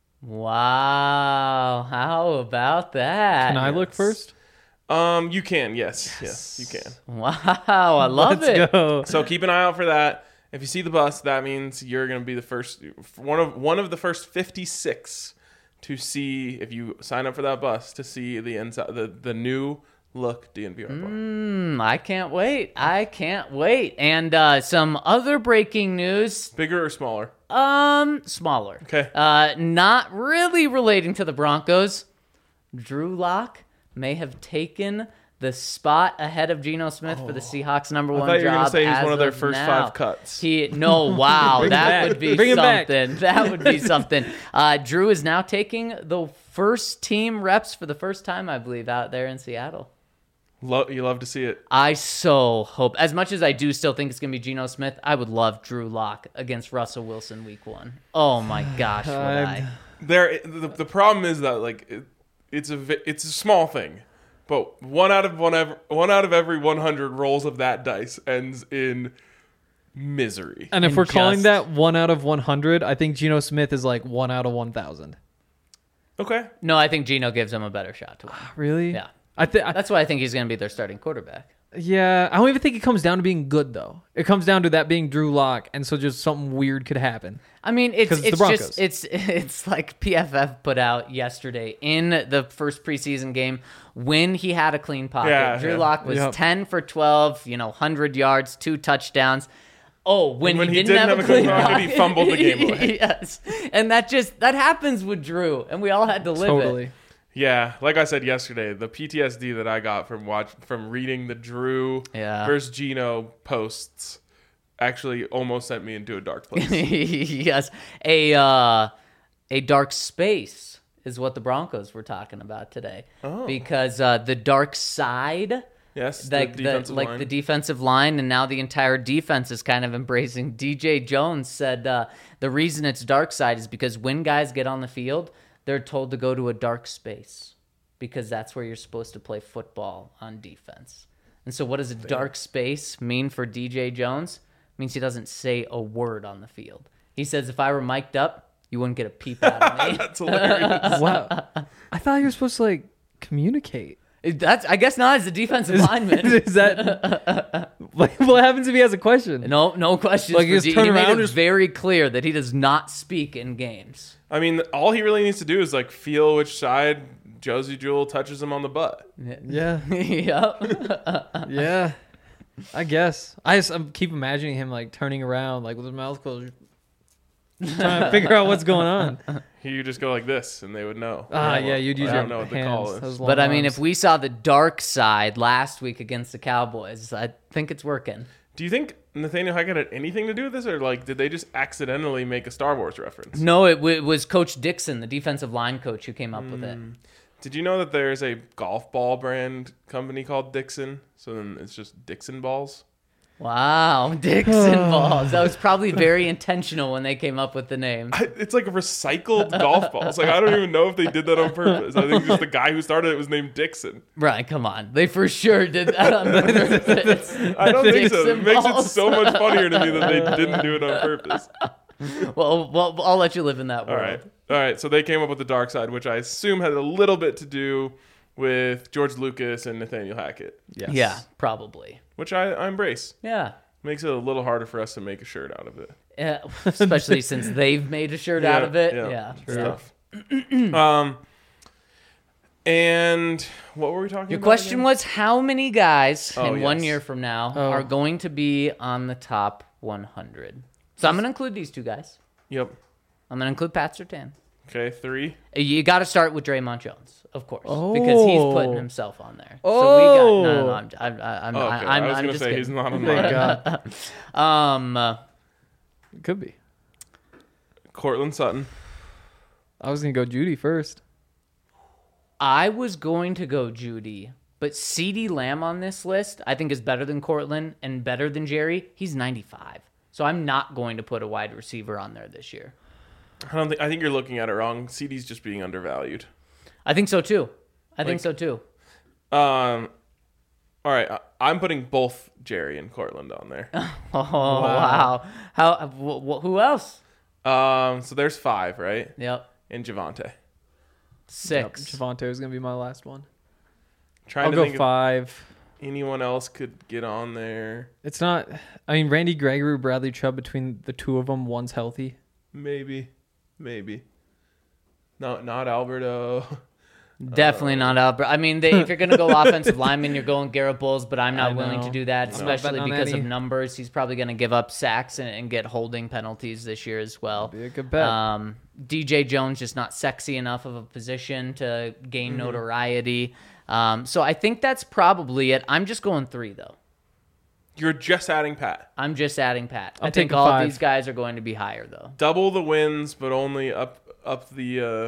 Wow. How about that? Can I look first? Um, you can, yes, yes, you can. Wow. I love Let's it. go. So keep an eye out for that. If you see the bus, that means you're going to be the first one of one of the first fifty-six to see, if you sign up for that bus, to see the inside the, the new look D N V R bar. Hmm, I can't wait. I can't wait. And uh, some other breaking news. Bigger or smaller? Um, smaller. Okay. Uh, not really relating to the Broncos. Drew Lock may have taken the spot ahead of Geno Smith for the Seahawks number I one thought you were job. going to say he's as one of their of first now. five cuts. He no, wow, Bring him that back. would be Bring him back. something. That would be something. Uh, Drew is now taking the first team reps for the first time, I believe, out there in Seattle. Lo- you love to see it. I so hope, as much as I do still think it's going to be Geno Smith, I would love Drew Lock against Russell Wilson week one. Oh my gosh, would I? There, the, the problem is that like it, it's a vi- it's a small thing, but one out of one ever, one out of every one hundred rolls of that dice ends in misery. And if And we're calling just- that one out of one hundred, I think Geno Smith is like one out of one thousand. Okay. No, I think Geno gives him a better shot to win. Really? Yeah. I think. That's why I think he's going to be their starting quarterback. Yeah, I don't even think it comes down to being good though. It comes down to that being Drew Lock, and so just something weird could happen. I mean, it's 'Cause it's it's the Broncos. just it's it's like P F F put out yesterday in the first preseason game when he had a clean pocket. Yeah, Drew yeah. Lock was Yep. ten for twelve, you know, one hundred yards, two touchdowns. Oh, when, when he, he didn't, didn't have, have a a clean clean pocket, pocket, he fumbled the game away. Yes, and that just that happens with Drew, and we all had to live Totally. it. Yeah, like I said yesterday, the P T S D that I got from watch from reading the Drew Yeah. versus Geno posts actually almost sent me into a dark place. Yes, a uh, a dark space is what the Broncos were talking about today, Oh. because uh, the dark side. Yes, Like the the, defensive like line. the defensive line, and now the entire defense is kind of embracing. D J Jones said uh, the reason it's dark side is because when guys get on the field, they're told to go to a dark space because that's where you're supposed to play football on defense. And so, what does a dark space mean for D J Jones? It means he doesn't say a word on the field. He says, "If I were mic'd up, you wouldn't get a peep out of me." That's hilarious. Wow. I thought you were supposed to like communicate. That's I guess not as a defensive lineman. Is that like, what happens if he has a question? No, no questions. Like, for you just D- turn he around made and it just- very clear that he does not speak in games. I mean, all he really needs to do is like feel which side Josie Jewell touches him on the butt. Yeah, Yep. yeah. I guess I just I keep imagining him like turning around, like with his mouth closed, trying to figure out what's going on. You just go like this, and they would know. Ah, I yeah, you'd use I your don't know what the hands. call is. those long But I mean, arms. if we saw the dark side last week against the Cowboys, I think it's working. Do you think Nathaniel Hackett had anything to do with this, or like did they just accidentally make a Star Wars reference? No, it, w- it was Coach Dixon, the defensive line coach, who came up with it. Did you know that there's a golf ball brand company called Dixon? So then it's just Dixon balls. Wow, Dixon balls. That was probably very intentional when they came up with the name. I, it's like recycled golf balls. Like I don't even know if they did that on purpose. I think just the guy who started it was named Dixon. Right, come on. They for sure did that on purpose. I don't think so. It Dixon makes it balls. so much funnier to me that they didn't do it on purpose. Well, well, I'll let you live in that All world. right. All right. So they came up with the dark side, which I assume had a little bit to do with George Lucas and Nathaniel Hackett, Yes. Yeah, probably. which I, I embrace. Yeah. Makes it a little harder for us to make a shirt out of it. Yeah, especially since they've made a shirt out Yeah, of it. yeah, Yeah. It's yeah. tough. um, and what were we talking Your about? question again? was how many guys Oh, in one yes. year from now Oh. are going to be on the top one hundred? So I'm going to include these two guys. Yep. I'm going to include Pat Surtain. Okay, three. You got to start with Draymond Jones, of course, because he's putting Oh. himself on there. So we got no, no, no. Oh. I'm, I'm, I'm, Oh, okay. I'm, I was I'm gonna just say kidding. he's not on Thank mine. God. Um, uh, It could be. Cortland Sutton. I was gonna go Judy first. I was going to go Judy, but CeeDee Lamb on this list I think is better than Cortland and better than Jerry. He's ninety-five, so I'm not going to put a wide receiver on there this year. I don't think. I think you're looking at it wrong. C D's just being undervalued. I think so too. I Like- think so too. Um. All right. I, I'm putting both Jerry and Cortland on there. Oh wow! How? Wh- wh- who else? Um. So there's five, right? Yep, And Javante. six. Javante is gonna be my last one. Trying I'll to go think five. if anyone else could get on there. It's not. I mean, Randy Gregory, Bradley Chubb. Between the two of them, one's healthy. Maybe. Maybe. No, not Alberto. Definitely not Albert. I mean, they, if you're going to go offensive lineman, you're going Garrett Bowles, but I'm not I willing to know. do that, No. especially Betting on because of Eddie. numbers. He's probably going to give up sacks and, and get holding penalties this year as well. Be a good bet. Um, D J Jones just not sexy enough of a position to gain Mm-hmm. notoriety. Um, so I think that's probably it. I'm just going three, though. You're just adding Pat. I'm just adding Pat. i I'm think taking all five. of these guys are going to be higher, though. Double the wins, but only up up the. Uh...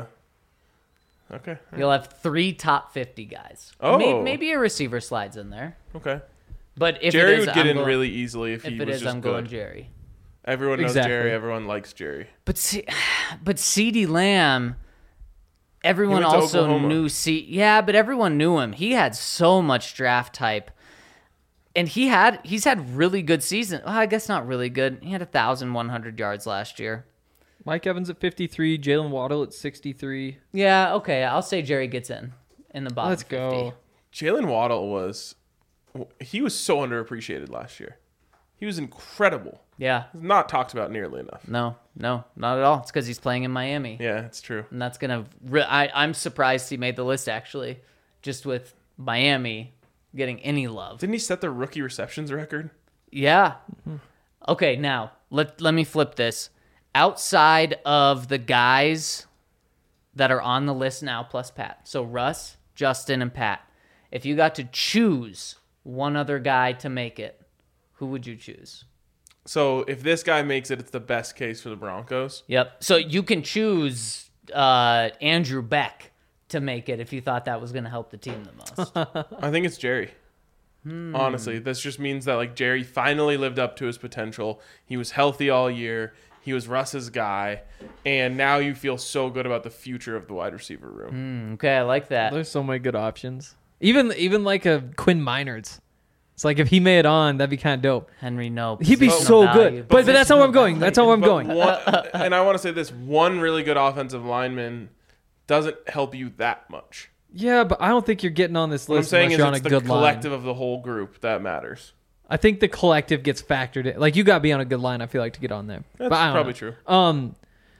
Okay. You'll have three top fifty guys. Oh. Maybe, maybe a receiver slides in there. Okay. But if Jerry it is, would get I'm in going, really easily if, If he it was is, just I'm good. going Jerry. Everyone knows Exactly. Jerry. Everyone likes Jerry. But C- but CeeDee Lamb, everyone He went to also Oklahoma. knew C. Yeah, but everyone knew him. He had so much draft type, and he had he's had really good season. Well, I guess not really good. He had a thousand one hundred yards last year. Mike Evans at fifty-three. Jalen Waddle at sixty-three. Yeah, okay. I'll say Jerry gets in in the bottom. Let's go. fifty. Jalen Waddle was. He was so underappreciated last year. He was incredible. Yeah. He's not talked about nearly enough. No, no, not at all. It's because he's playing in Miami. Yeah, it's true. And that's gonna. Re- I I'm surprised he made the list actually, just with Miami getting any love. Didn't he set the rookie receptions record? Yeah. Okay, now let let me flip this. Outside of the guys that are on the list now, plus Pat, so Russ, Justin, and Pat. If you got to choose one other guy to make it, who would you choose? So if this guy makes it, it's the best case for the Broncos. Yep. So you can choose uh, Andrew Beck to make it if you thought that was going to help the team the most. I think it's Jerry. Hmm. Honestly, this just means that like Jerry finally lived up to his potential. He was healthy all year. He was Russ's guy, and now you feel so good about the future of the wide receiver room. Okay, I like that. There's so many good options. Even even like a Quinn Minards. It's like if he made it on, that'd be kind of dope. Henry, no. He'd be positional so value. good. But, but that's not where I'm going. That's not where I'm But going. one, and I want to say this: one really good offensive lineman doesn't help you that much. Yeah, but I don't think you're getting on this What I'm list saying unless is you're on a it's the good collective line. of the whole group that matters. I think the collective gets factored in. Like you got to be on a good line. I feel like to get on there. That's but I don't probably know. true. Um.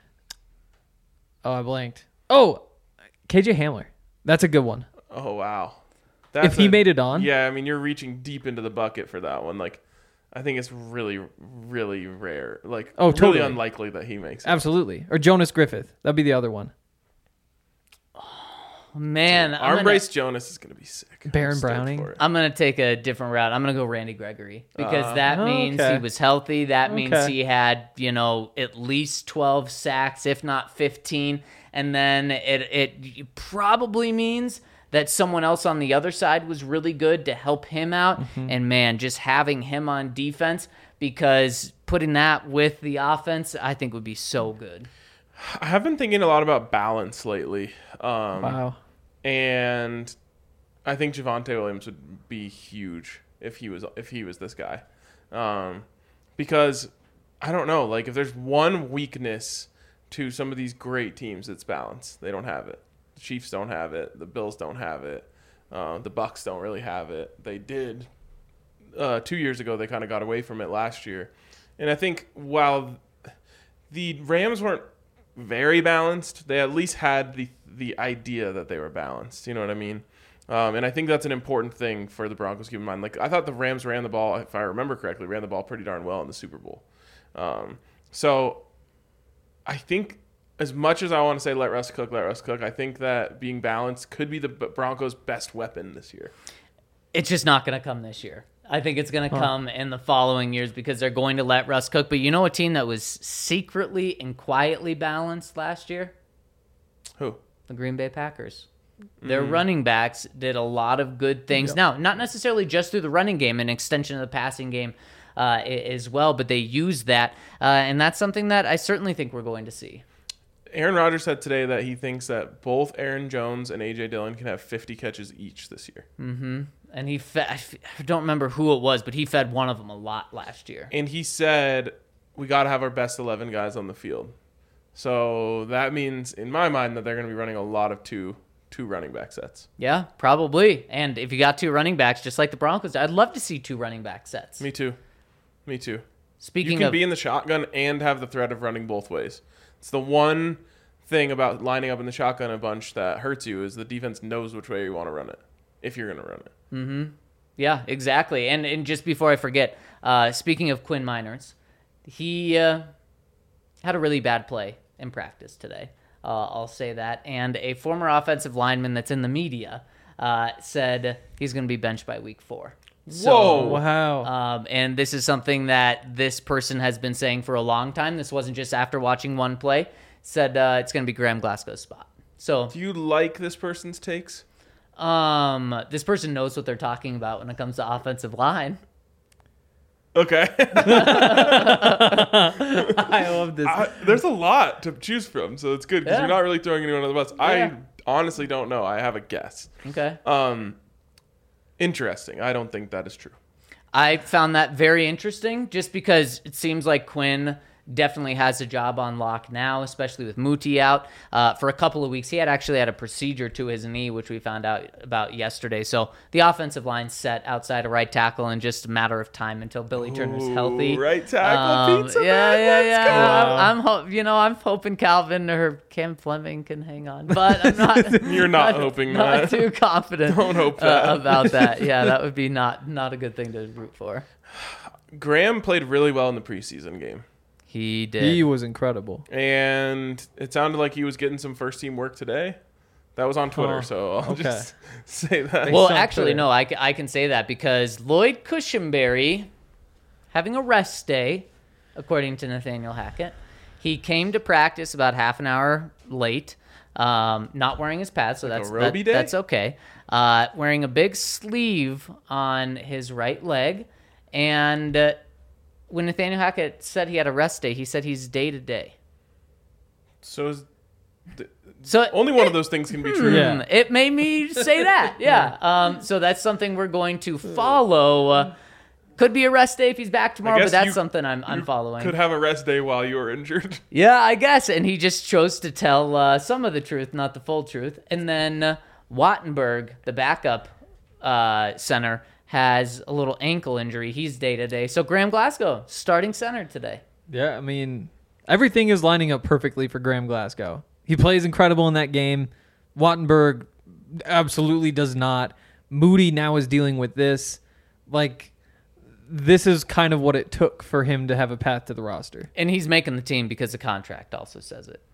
Oh, I blanked. Oh, K J Hamler. That's a good one. Oh wow! If he made it on? yeah. I mean, you're reaching deep into the bucket for that one. Like, I think it's really, really rare. Like, Oh, really totally. unlikely that he makes it. Absolutely. Or Jonas Griffith. That'd be the other one. Man, I'm Arm gonna, brace Jonas is gonna be sick. I'm Baron stoked Browning? for it. I'm gonna take a different route. I'm gonna go Randy Gregory because Uh, that means okay. he was healthy. That means Okay. he had, you know, at least twelve sacks, if not fifteen. And then it it probably means that someone else on the other side was really good to help him out. Mm-hmm. And man, just having him on defense, because putting that with the offense, I think would be so good. I have been thinking a lot about balance lately. Um, Wow. And I think Javonte Williams would be huge if he was if he was this guy. Um, because I don't know, like if there's one weakness to some of these great teams, it's balance. They don't have it. The Chiefs don't have it. The Bills don't have it. Uh, the Bucks don't really have it. They did uh, two years ago. They kind of got away from it last year. And I think while the Rams weren't very balanced, they at least had the the idea that they were balanced. You know what I mean? Um, and I think that's an important thing for the Broncos to keep in mind. Like I thought the Rams ran the ball, if I remember correctly, ran the ball pretty darn well in the Super Bowl. Um, so I think as much as I want to say let Russ cook, let Russ cook, I think that being balanced could be the Broncos' best weapon this year. It's just not going to come this year. I think it's going to come in the following years because they're going to let Russ cook. But you know a team that was secretly and quietly balanced last year? Who? The Green Bay Packers. Their running backs did a lot of good things. Yep. Now, not necessarily just through the running game, an extension of the passing game uh, as well, but they used that. Uh, and that's something that I certainly think we're going to see. Aaron Rodgers said today that he thinks that both Aaron Jones and A J Dillon can have fifty catches each this year. Mm-hmm. And he fed, I don't remember who it was, but he fed one of them a lot last year. And he said, we got to have our best eleven guys on the field. So that means, in my mind, that they're going to be running a lot of two two running back sets. Yeah, probably. And if you got two running backs, just like the Broncos, I'd love to see two running back sets. Me too. Me too. Speaking you can of, be in the shotgun and have the threat of running both ways. It's the one thing about lining up in the shotgun a bunch that hurts you is the defense knows which way you want to run it, if you're going to run it. Mm-hmm. Yeah, exactly. And and just before I forget, uh, speaking of Quinn Miners, he uh, had a really bad play in practice today. Uh, I'll say that. And a former offensive lineman that's in the media uh, said he's going to be benched by week four. So, Whoa. Wow. Um, and this is something that this person has been saying for a long time. This wasn't just after watching one play. Said uh, it's going to be Graham Glasgow's spot. So, do you like this person's takes? Um, this person knows what they're talking about when it comes to offensive line. Okay. I love this. I, there's a lot to choose from, so it's good because Yeah. you're not really throwing anyone on the bus. Yeah. I honestly don't know. I have a guess. Okay. Um, interesting. I don't think that is true. I found that very interesting just because it seems like Quinn definitely has a job on lock now, especially with Muti out uh, for a couple of weeks. He had actually had a procedure to his knee, which we found out about yesterday. So the offensive line set outside of right tackle in just a matter of time until Billy Turner's Ooh, healthy. right tackle, Um, pizza yeah, man, yeah, let's yeah. go. I'm, I'm ho- you know, I'm hoping Calvin or Cam Fleming can hang on, but I'm not. You're not hoping not that. too confident. Don't hope uh, that. about that. Yeah, that would be not not a good thing to root for. Graham played really well in the preseason game. He did. He was incredible. And it sounded like he was getting some first team work today. That was on Twitter, Oh, so I'll okay. just say that. Well, Based on actually, Twitter. no, I, ca- I can say that because Lloyd Cushenberry, having a rest day, according to Nathaniel Hackett, he came to practice about half an hour late, um, not wearing his pads, so Like a that's Roby that- day? that's okay. Uh, wearing a big sleeve on his right leg, and uh, when Nathaniel Hackett said he had a rest day, he said he's day to day. So is, th- So only one it- of those things can be true. Yeah. Hmm, It made me say that. Yeah. Um, so that's something we're going to follow. Uh, could be a rest day if he's back tomorrow, but guess that's you- something I'm, I'm following. Could have a rest day while you were injured. Yeah, I guess. And he just chose to tell uh, some of the truth, not the full truth. And then uh, Wattenberg, the backup uh, center, has a little ankle injury. He's day to day. So Graham Glasgow, starting center today. Yeah, I mean, everything is lining up perfectly for Graham Glasgow. He plays incredible in that game. Wattenberg absolutely does not. Moody now is dealing with this. Like, this is kind of what it took for him to have a path to the roster. And he's making the team because the contract also says it.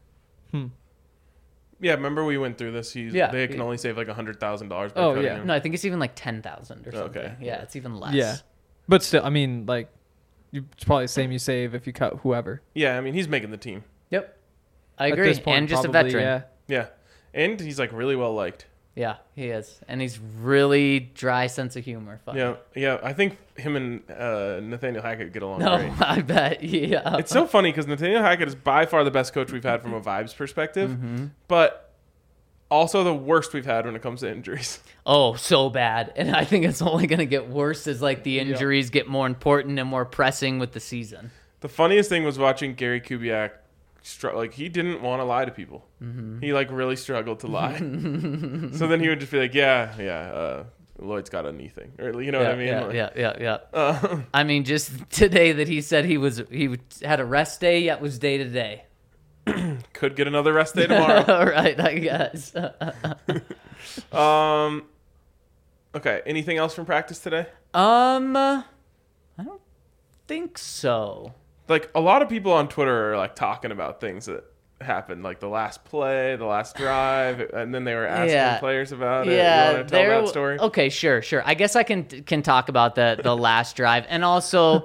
Yeah, remember we went through this. He's, Yeah. They can only save like one hundred thousand dollars by Oh, cutting yeah. him. No, I think it's even like ten thousand or something. Okay. Yeah, it's even less. Yeah. But still, I mean, like, you- it's probably the same you save if you cut whoever. Yeah, I mean, he's making the team. Yep. I At agree. this point, And just probably, a veteran. Yeah. Yeah. And he's like really well liked. Yeah, he is. And he's really dry sense of humor. Funny. Yeah, yeah. I think him and uh, Nathaniel Hackett get along No, great. I bet. Yeah. It's so funny because Nathaniel Hackett is by far the best coach we've had from a vibes perspective, Mm-hmm. but also the worst we've had when it comes to injuries. Oh, so bad. And I think it's only going to get worse as like the injuries get more important and more pressing with the season. The funniest thing was watching Gary Kubiak. Str- like he didn't want to lie to people. Mm-hmm. He like really struggled to lie. So then he would just be like, "Yeah, yeah, uh, Lloyd's got a knee thing," or you know yeah, what I mean? Yeah, Like, yeah, yeah, yeah. Uh, I mean, just today that he said he was he had a rest day, yet was day to day. could get another rest day tomorrow. All right, I guess. um. Okay. Anything else from practice today? um, I don't think so. Like a lot of people on Twitter are like talking about things that happened, like the last play, the last drive, and then they were asking Yeah. players about it. Yeah, You want to tell there- that story? Okay, sure, sure. I guess I can can talk about the the last drive, and also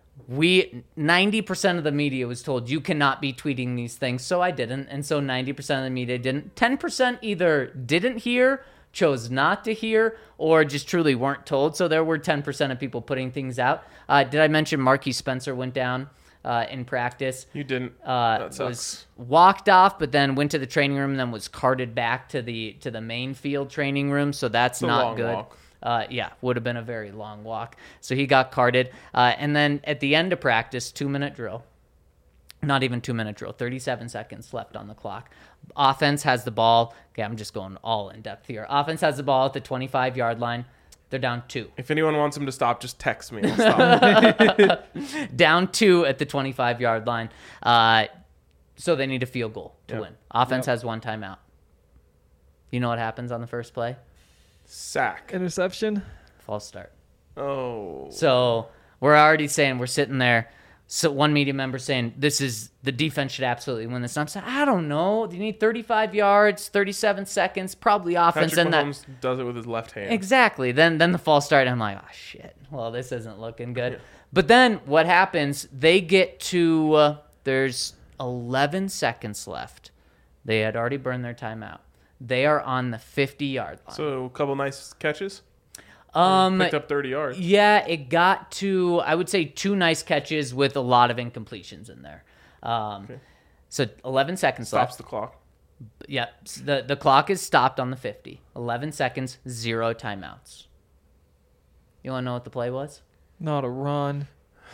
we ninety percent of the media was told you cannot be tweeting these things, so I didn't, and so ninety percent of the media didn't. ten percent either didn't hear, chose not to hear, or just truly weren't told. So there were ten percent of people putting things out. Uh, did I mention Marquis Spencer went down uh, in practice? You didn't. Uh, that sucks. was walked off, but then went to the training room, and then was carted back to the to the main field training room. So that's a not long good. walk. Uh, yeah, would have been a very long walk. So he got carted, uh, and then at the end of practice, two minute drill. Not even two minute drill. thirty-seven seconds left on the clock. Offense has the ball. Okay, I'm just going all in depth here. Offense has the ball at the twenty-five yard line. They're down two. If anyone wants him to stop, just text me. I'll stop. Down two at the twenty-five yard line. Uh, so they need a field goal to Yep. win. Offense Yep. has one timeout. You know what happens on the first play? Sack. Interception. False start. Oh. So we're already saying we're sitting there. So one media member saying this is the defense should absolutely win this. And I'm saying I don't know. You need thirty-five yards, thirty-seven seconds, probably offense. Patrick And that Mahomes does it with his left hand. exactly. Then then the false start. I'm like, oh shit. Well, this isn't looking good. But then what happens? They get to uh, there's eleven seconds left. They had already burned their timeout. They are on the fifty yard line. So a couple nice catches. um, Picked up thirty yards. Yeah, it got to, I would say, two nice catches with a lot of incompletions in there. Um, Okay. So eleven seconds Stops left. the clock. Yep. s- The, the clock is stopped on the fifty. eleven seconds, zero timeouts. You want to know what the play was? Not a run.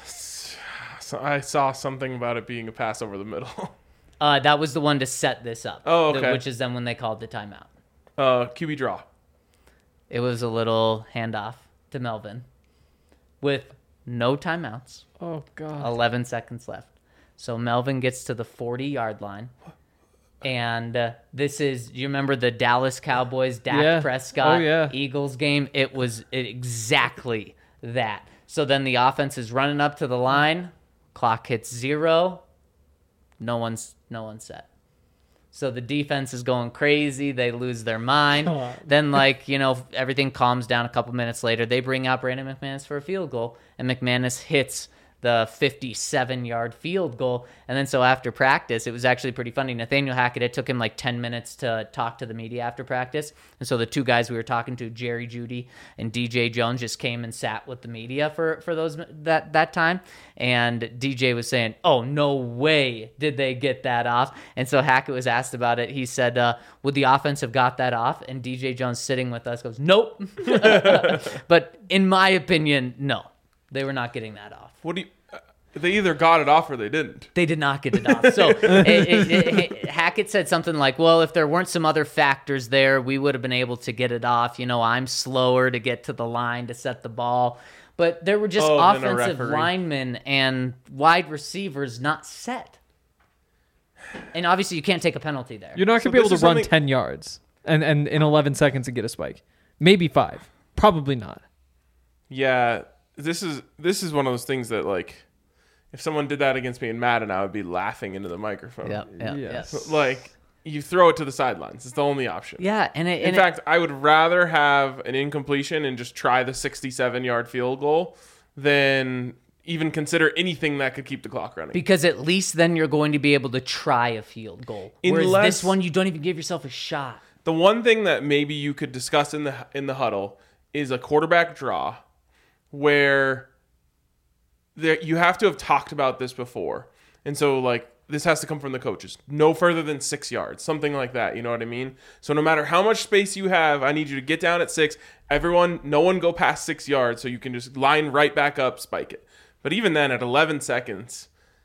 So I saw something about it being a pass over the middle. Uh, that was the one to set this up. Oh, the- okay. Which is then when they called the timeout. Uh, Q B draw. It was a little handoff to Melvin with no timeouts. Oh god. eleven seconds left. So Melvin gets to the forty yard line. And uh, this is, you remember the Dallas Cowboys, Dak Yeah. Prescott, Oh, yeah. Eagles game? It was exactly that. So then the offense is running up to the line. Clock hits zero. No one's no one's set. So the defense is going crazy. They lose their mind. Come on. Then, like, you know, everything calms down a couple minutes later. They bring out Brandon McManus for a field goal, and McManus hits the fifty-seven yard field goal. And then so after practice, it was actually pretty funny. Nathaniel Hackett, it took him like ten minutes to talk to the media after practice. And so the two guys we were talking to, Jerry Jeudy and D J Jones, just came and sat with the media for, for those that, that time. And D J was saying, oh, no way did they get that off. And so Hackett was asked about it. He said, uh, would the offense have got that off? And D J Jones sitting with us goes, nope. But in my opinion, no. They were not getting that off. What do you? Uh, they either got it off or they didn't. They did not get it off. So it, it, it, it, Hackett said something like, well, if there weren't some other factors there, we would have been able to get it off. You know, I'm slower to get to the line to set the ball. But there were just Oh, then a offensive referee. linemen and wide receivers not set. And obviously you can't take a penalty there. You're not So gonna be able to this is run something- ten yards and, and in eleven seconds and get a spike. Maybe five. Probably not. Yeah, this is this is one of those things that like, if someone did that against me in Madden, I would be laughing into the microphone. Yeah, yeah, Yes. yeah. Like you throw it to the sidelines. It's the only option. Yeah, and it, In and fact, I would rather have an incompletion and just try the sixty-seven yard field goal than even consider anything that could keep the clock running. because at least then you're going to be able to try a field goal. Whereas Unless- this one, you don't even give yourself a shot. The one thing that maybe you could discuss in the in the huddle is a quarterback draw, where there you have to have talked about this before, and so like this has to come from the coaches, no further than six yards, something like that. You know what I mean? So no matter how much space you have, I need you to get down at six. Everyone, no one go past six yards, so you can just line right back up, spike it. But even then, at eleven seconds.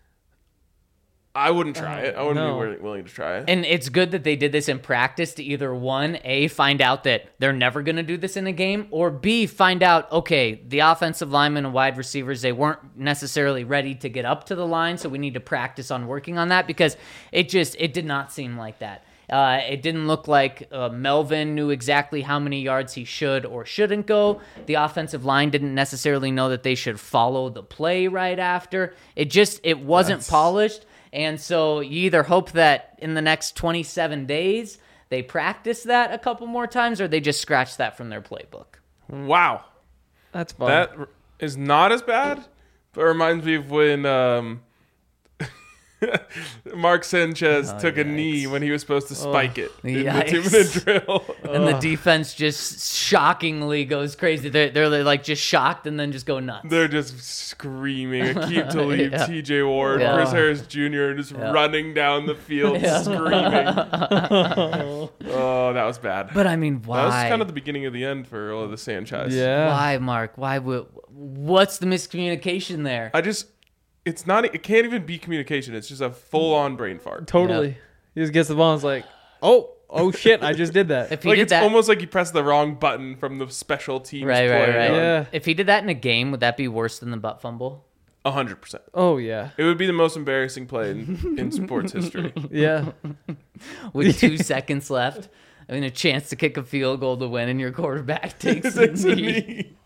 I wouldn't try it. I wouldn't no. be willing, willing to try it. And it's good that they did this in practice to either one, A, find out that they're never going to do this in a game, or B, find out, okay, the offensive linemen and wide receivers, they weren't necessarily ready to get up to the line, so we need to practice on working on that, because it just, it did not seem like that. Uh, it didn't look like uh, Melvin knew exactly how many yards he should or shouldn't go. The offensive line didn't necessarily know that they should follow the play right after. It just, it wasn't That's... polished. And so you either hope that in the next twenty-seven days they practice that a couple more times, or they just scratch that from their playbook. Wow. That's fun. That is not as bad, but it reminds me of when um, Mark Sanchez Oh, took a yikes. knee when he was supposed to spike it in the Yikes. two-minute drill. And the defense just shockingly goes crazy. They're, they're like just shocked and then just go nuts. They're just screaming. Akeem Talib, Yeah. T J Ward, Yeah. Chris Harris Junior just Yeah. running down the field Yeah. screaming. Oh, that was bad. But I mean, why? That was kind of the beginning of the end for all of the Sanchez. yeah. Why, Mark? Why would? What's the miscommunication there? I just, it's not, it can't even be communication. It's just a full-on brain fart. Totally. He just gets the ball and is like, oh, oh shit, I just did that. If he Like did it's that, almost like you pressed the wrong button from the special teams right, right, play. right. Yeah. If he did that in a game, would that be worse than the butt fumble? A hundred percent. Oh, yeah. It would be the most embarrassing play in, in sports history. Yeah. With two seconds left, I mean, a chance to kick a field goal to win, and your quarterback takes the It's a knee. knee.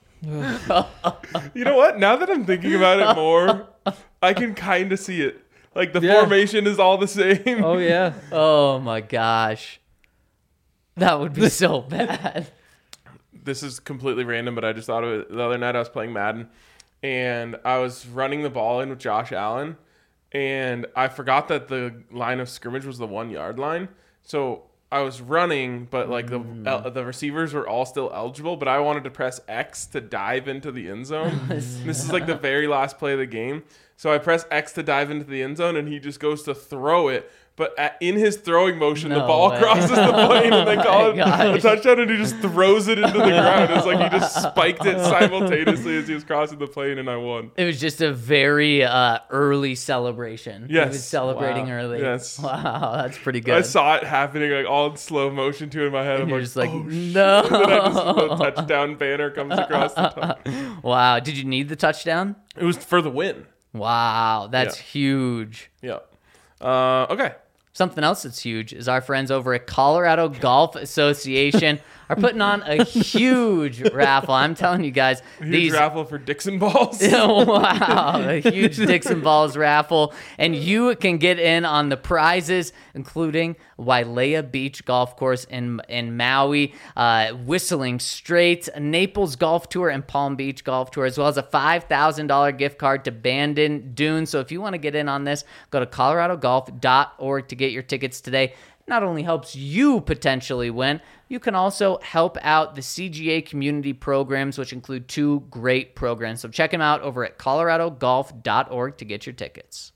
You know what? Now that I'm thinking about it more, I can kind of see it. Like the Yeah. formation is all the same. Oh, yeah. Oh my gosh, that would be so bad. This is completely random, but I just thought of it the other night. I was playing Madden, and I was running the ball in with Josh Allen, and I forgot that the line of scrimmage was the one yard line. So I was running, but like the el- the receivers were all still eligible, but I wanted to press X to dive into the end zone. This is like the very last play of the game. So I press X to dive into the end zone, and he just goes to throw it. But at, in his throwing motion, the No ball way. crosses the plane, and they Oh call my it a gosh. touchdown, and he just throws it into the ground. It's like he just spiked it simultaneously as he was crossing the plane, and I won. It was just a very uh, early celebration. He Yes. was celebrating Wow. early. Yes. Wow, that's pretty good. I saw it happening like all in slow motion too in my head. And I'm you're like, just like, oh, shit. no. And then I just, the touchdown banner comes across the top. Wow, did you need the touchdown? It was for the win. Wow, that's Yeah. huge. Yeah. Uh, okay. Something else that's huge is our friends over at Colorado Golf Association are putting on a huge raffle. I'm telling you guys, Huge these raffle for Dixon balls. wow, a huge Dixon Balls raffle. And you can get in on the prizes, including Wailea Beach Golf Course in, in Maui, uh, Whistling Straits, Naples Golf Tour, and Palm Beach Golf Tour, as well as a five thousand dollars gift card to Bandon Dunes. So if you want to get in on this, go to colorado golf dot org to get your tickets today. Not only helps you potentially win, you can also help out the C G A community programs, which include two great programs. So check them out over at colorado golf dot org to get your tickets.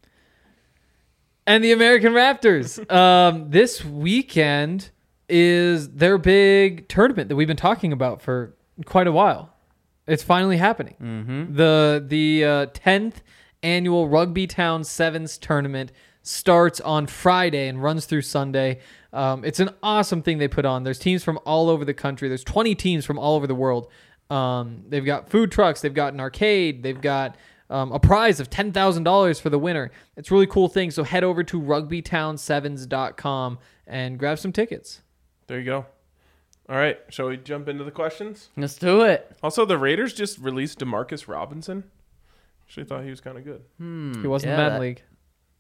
And the American Raptors. Um, this weekend is their big tournament that we've been talking about for quite a while. It's finally happening. Mm-hmm. The the uh, tenth annual Rugby Town Sevens tournament starts on Friday and runs through Sunday. Um, it's an awesome thing they put on. There's teams from all over the country. There's twenty teams from all over the world. Um, they've got food trucks. They've got an arcade. They've got um, a prize of ten thousand dollars for the winner. It's a really cool thing. So head over to rugby town sevens dot com and grab some tickets. There you go. All right. Shall we jump into the questions? Let's do it. Also, the Raiders just released Demarcus Robinson. Actually thought he was kind of good. He wasn't yeah, in that, that- league.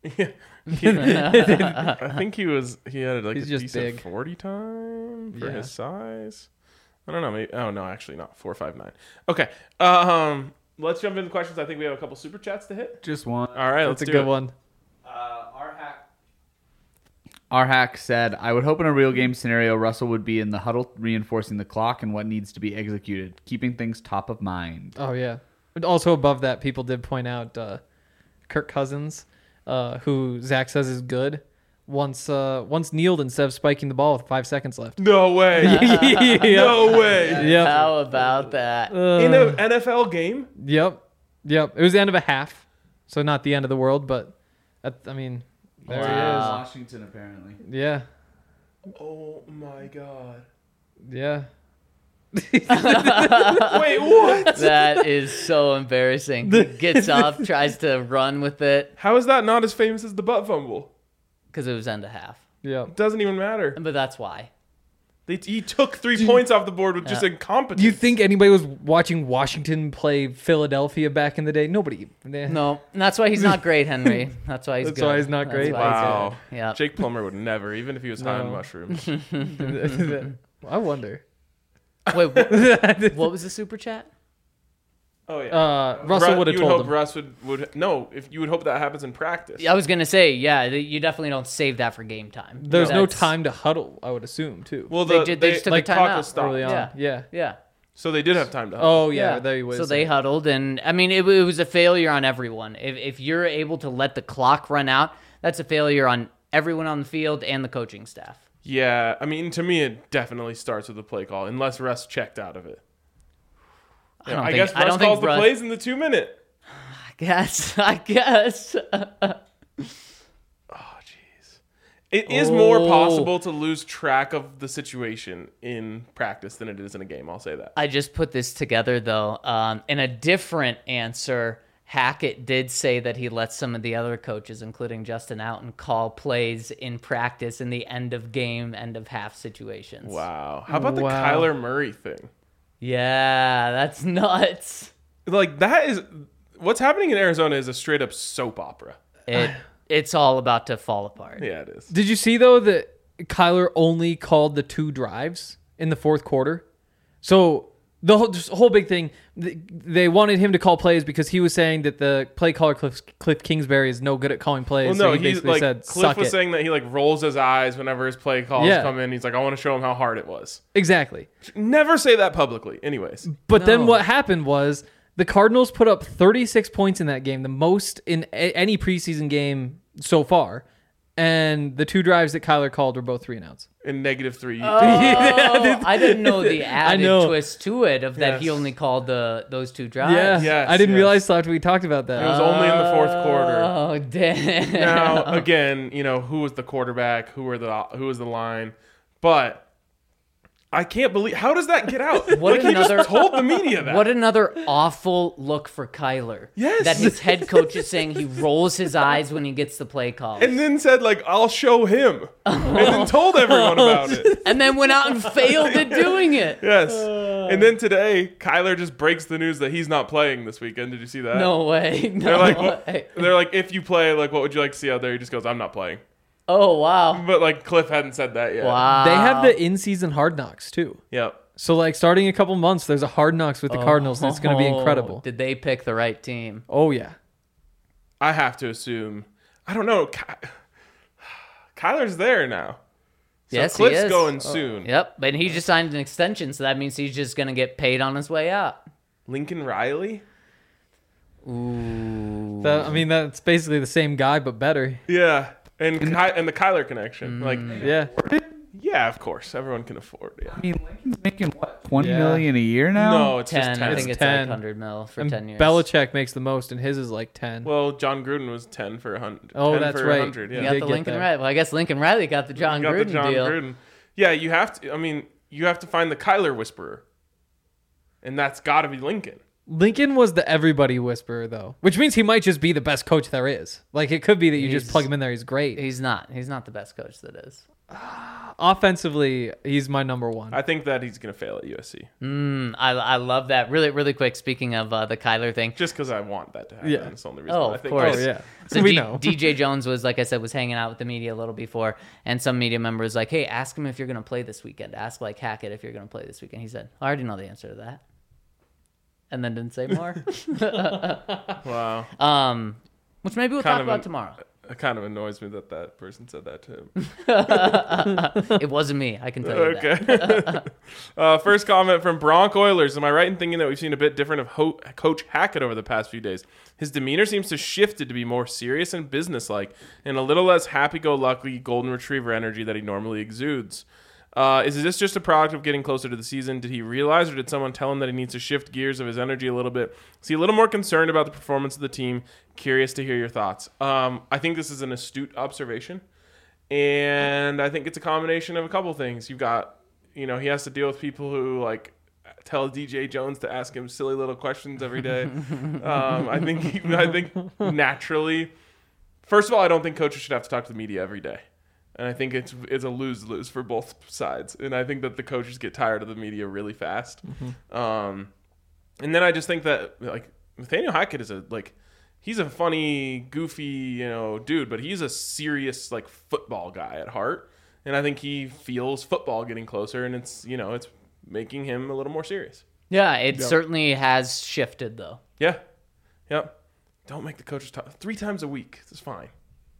Yeah. I think he was, he had like He's a just decent big. forty time for Yeah. his size. I don't know. Maybe, oh, no, actually not. four five nine. Okay. Um, let's jump into questions. I think we have a couple super chats to hit. Just one. All right. That's let's a do good it. one. Uh, our hack. Our hack said, I would hope in a real game scenario, Russell would be in the huddle reinforcing the clock and what needs to be executed, keeping things top of mind. Oh, yeah. But also above that, people did point out uh, Kirk Cousins, uh, who Zach says is good, once uh, once kneeled instead of spiking the ball with five seconds left. No way. Yep. No way. Yep. How about that? Uh, In an N F L game? Yep. Yep. It was the end of a half, so not the end of the world, but, at, I mean, there Wow. Washington, apparently. he is. Yeah. Oh my god. Yeah. Wait, what? That is so embarrassing. He gets up, tries to run with it How is that not as famous as the butt fumble? because it was end of half. Yep. It doesn't even matter. But that's why. They, he took three points off the board with just Yeah. incompetence. Do you think anybody was watching Washington play Philadelphia back in the day? Nobody. Nah. No, and that's why he's not great, Henry. That's why he's That's good. why he's not great? why he's Wow. good. Yeah. Jake Plummer would never, even if he was high on No. mushrooms. I wonder. Wait, what, what was the super chat? Oh yeah. Uh, Russell Ru- would have you told hope him. Russ would, would no. If you would hope that happens in practice. I was gonna say, yeah, th- you definitely don't save that for game time. There's no That's- time to huddle, I would assume, too. Well, They the, did- they just took a like timeout clock was stopped. early on. Yeah. Yeah. Yeah. So they did have time to. Huddle. Oh, yeah. There he was. So they huddled, and I mean, it, it was a failure on everyone. If if you're able to let the clock run out, that's a failure on everyone on the field and the coaching staff. Yeah, I mean, to me, it definitely starts with the play call, unless Russ checked out of it. I You know, don't I think- guess I Russ don't think calls the Russ- plays in the two minute. I guess. I guess. Oh, jeez. It is more Oh. possible to lose track of the situation in practice than it is in a game. I'll say that. I just put this together though. Um, in a different answer, Hackett did say that he let some of the other coaches, including Justin Outen, call plays in practice in the end of game, end of half situations. Wow. How about the Wow. Kyler Murray thing? Yeah, that's nuts. Like, that is. What's happening in Arizona is a straight up soap opera. It it's all about to fall apart. Yeah, it is. Did you see, though, that Kyler only called the two drives in the fourth quarter? So the whole, this whole big thing, th- they wanted him to call plays because he was saying that the play caller, Cliff, Cliff Kingsbury, is no good at calling plays. Well, so no, he he's basically like said, Cliff suck was it. saying that he like rolls his eyes whenever his play calls Yeah. come in. He's like, I want to show him how hard it was. Exactly. Never say that publicly. Anyways, But then No. what happened was the Cardinals put up thirty-six points in that game, the most in a- any preseason game so far. And the two drives that Kyler called were both three and outs. in negative three. Oh, I didn't know the added know. twist to it of that he Yes. only called the those two drives. Yeah, Yes, I didn't yes. realize till after we talked about that. It was only in the fourth quarter. Oh damn! Now, again, you know, who was the quarterback? Who were the who was the line? But I can't believe how does that get out? What like he another- just told the media that. What another awful look for Kyler. Yes. That his head coach is saying he rolls his eyes when he gets the play call. and then said like, "I'll show him," and then told everyone about it. And then went out and failed at doing it. Yes. And then today, Kyler just breaks the news that he's not playing this weekend. Did you see that? No way. No They're like, what, way. they're like, if you play, like, what would you like to see out there? He just goes, I'm not playing. Oh wow. But like, Cliff hadn't said that yet. Wow. They have the in-season hard knocks too. Yep. So like starting in a couple months, there's a hard knocks with the Cardinals, and it's going to be Oh, incredible. Did they pick the right team? Oh yeah, I have to assume. I don't know. Ky- Kyler's there now. So Yes, he Cliff's is. going soon. Yep. But he just signed an extension, so that means he's just gonna get paid on his way out. Lincoln Riley? Ooh. that, I mean that's basically the same guy but better. Yeah. And Ky- and the Kyler connection. Like, Yeah, yeah, of course. Everyone can afford it. Yeah. I mean, Lincoln's making what, twenty Yeah. million a year now? No, it's ten. just ten. I think it's ten. like hundred mil for and ten years. Belichick makes the most, and his is like ten. Well, John Gruden was ten for a hundred. Oh, ten that's for right. one hundred, You yeah. got did the get Lincoln that. Riley. Well, I guess Lincoln Riley got the John got Gruden the John deal. Gruden. Yeah, you have to. I mean, you have to find the Kyler whisperer, and that's got to be Lincoln. Lincoln was the everybody whisperer though, which means he might just be the best coach there is. Like it could be that you just He's- plug him in there, he's great. He's not. He's not the best coach that is. Offensively, he's my number one. I think that he's gonna fail at U S C Mm, I, I love that. Really, really quick. Speaking of uh, the Kyler thing. just because I want that to happen. Yeah. That's the only reason. Oh, why I of think course. Oh yeah, So we D- know. D J Jones was, like I said, was hanging out with the media a little before, and some media member was like, "Hey, ask him if you're going to play this weekend. Ask like Hackett if you're going to play this weekend." He said, "I already know the answer to that," and then didn't say more. Wow. um, which maybe we'll Kind talk of about an- tomorrow. It kind of annoys me that that person said that to him. It wasn't me. I can tell you that. Okay. uh, first comment from Bronc Oilers. Am I right in thinking that we've seen a bit different of Ho- Coach Hackett over the past few days? His demeanor seems to have shifted to be more serious and businesslike, and a little less happy-go-lucky golden retriever energy that he normally exudes. Uh, is this just a product of getting closer to the season? Did he realize, or did someone tell him that he needs to shift gears of his energy a little bit? Is he a little more concerned about the performance of the team? Curious to hear your thoughts. Um, I think this is an astute observation, and I think it's a combination of a couple things. You've got, you know, he has to deal with people who like tell D J Jones to ask him silly little questions every day. um, I think, he, I think naturally, first of all, I don't think coaches should have to talk to the media every day. And I think it's it's a lose-lose for both sides. And I think that the coaches get tired of the media really fast. Mm-hmm. Um, and then I just think that, like, Nathaniel Hackett is a, like, he's a funny, goofy, you know, dude, but he's a serious, like, football guy at heart. And I think he feels football getting closer, and it's, you know, it's making him a little more serious. Yeah, it Yep. certainly has shifted, though. Yeah. Yep. Don't make the coaches talk. Three times a week. It's fine.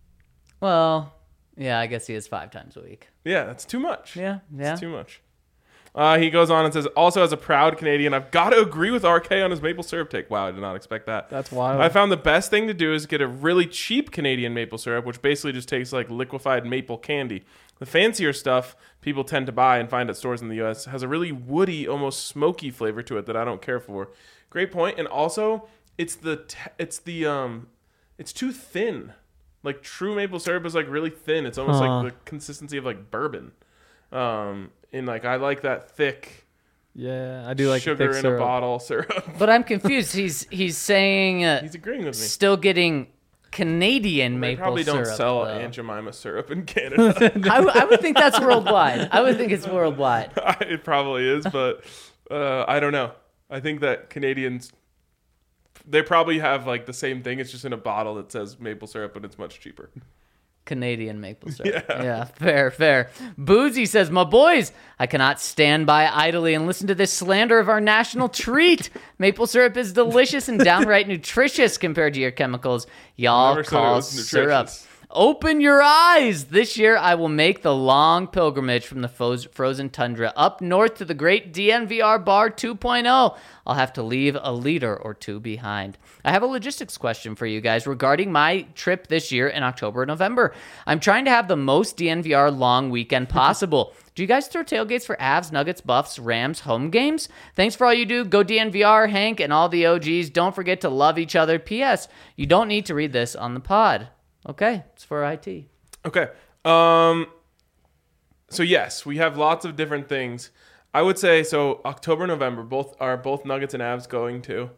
Well, yeah, I guess he is five times a week. Yeah, that's too much. Yeah, yeah. It's too much. Uh, he goes on and says, also as a proud Canadian, I've got to agree with R K on his maple syrup take. Wow, I did not expect that. That's wild. I found the best thing to do is get a really cheap Canadian maple syrup, which basically just tastes like liquefied maple candy. The fancier stuff people tend to buy and find at stores in the U S has a really woody, almost smoky flavor to it that I don't care for. Great point. And also, it's the te- it's the um, it's too thin. Like true maple syrup is like really thin. It's almost Huh. like the consistency of like bourbon. Um, and like I like that thick Yeah, I do like sugar thick in syrup. a bottle syrup. But I'm confused. He's he's saying uh, He's agreeing with me. still getting Canadian They maple probably don't syrup. sell though. Aunt Jemima syrup in Canada. I, w- I would think that's worldwide. I would think it's worldwide. It probably is, but uh, I don't know. I think that Canadians, they probably have like the same thing. It's just in a bottle that says maple syrup, but it's much cheaper. Canadian maple syrup. Yeah. Yeah, fair, fair. Boozy says, my boys, I cannot stand by idly and listen to this slander of our national treat. Maple syrup is delicious and downright nutritious compared to your chemicals y'all Never said it call was syrup. nutritious. Open your eyes. This year, I will make the long pilgrimage from the fo- frozen tundra up north to the great D N V R Bar two point oh. I'll have to leave a liter or two behind. I have a logistics question for you guys regarding my trip this year in October and November. I'm trying to have the most D N V R long weekend possible. Do you guys throw tailgates for Avs, Nuggets, Buffs, Rams home games? Thanks for all you do. Go D N V R, Hank, and all the O Gs. Don't forget to love each other. P S. You don't need to read this on the pod. Okay, it's for I T. Okay. Um. So yes, we have lots of different things. I would say so. October, November, both are both Nuggets and Avs going to.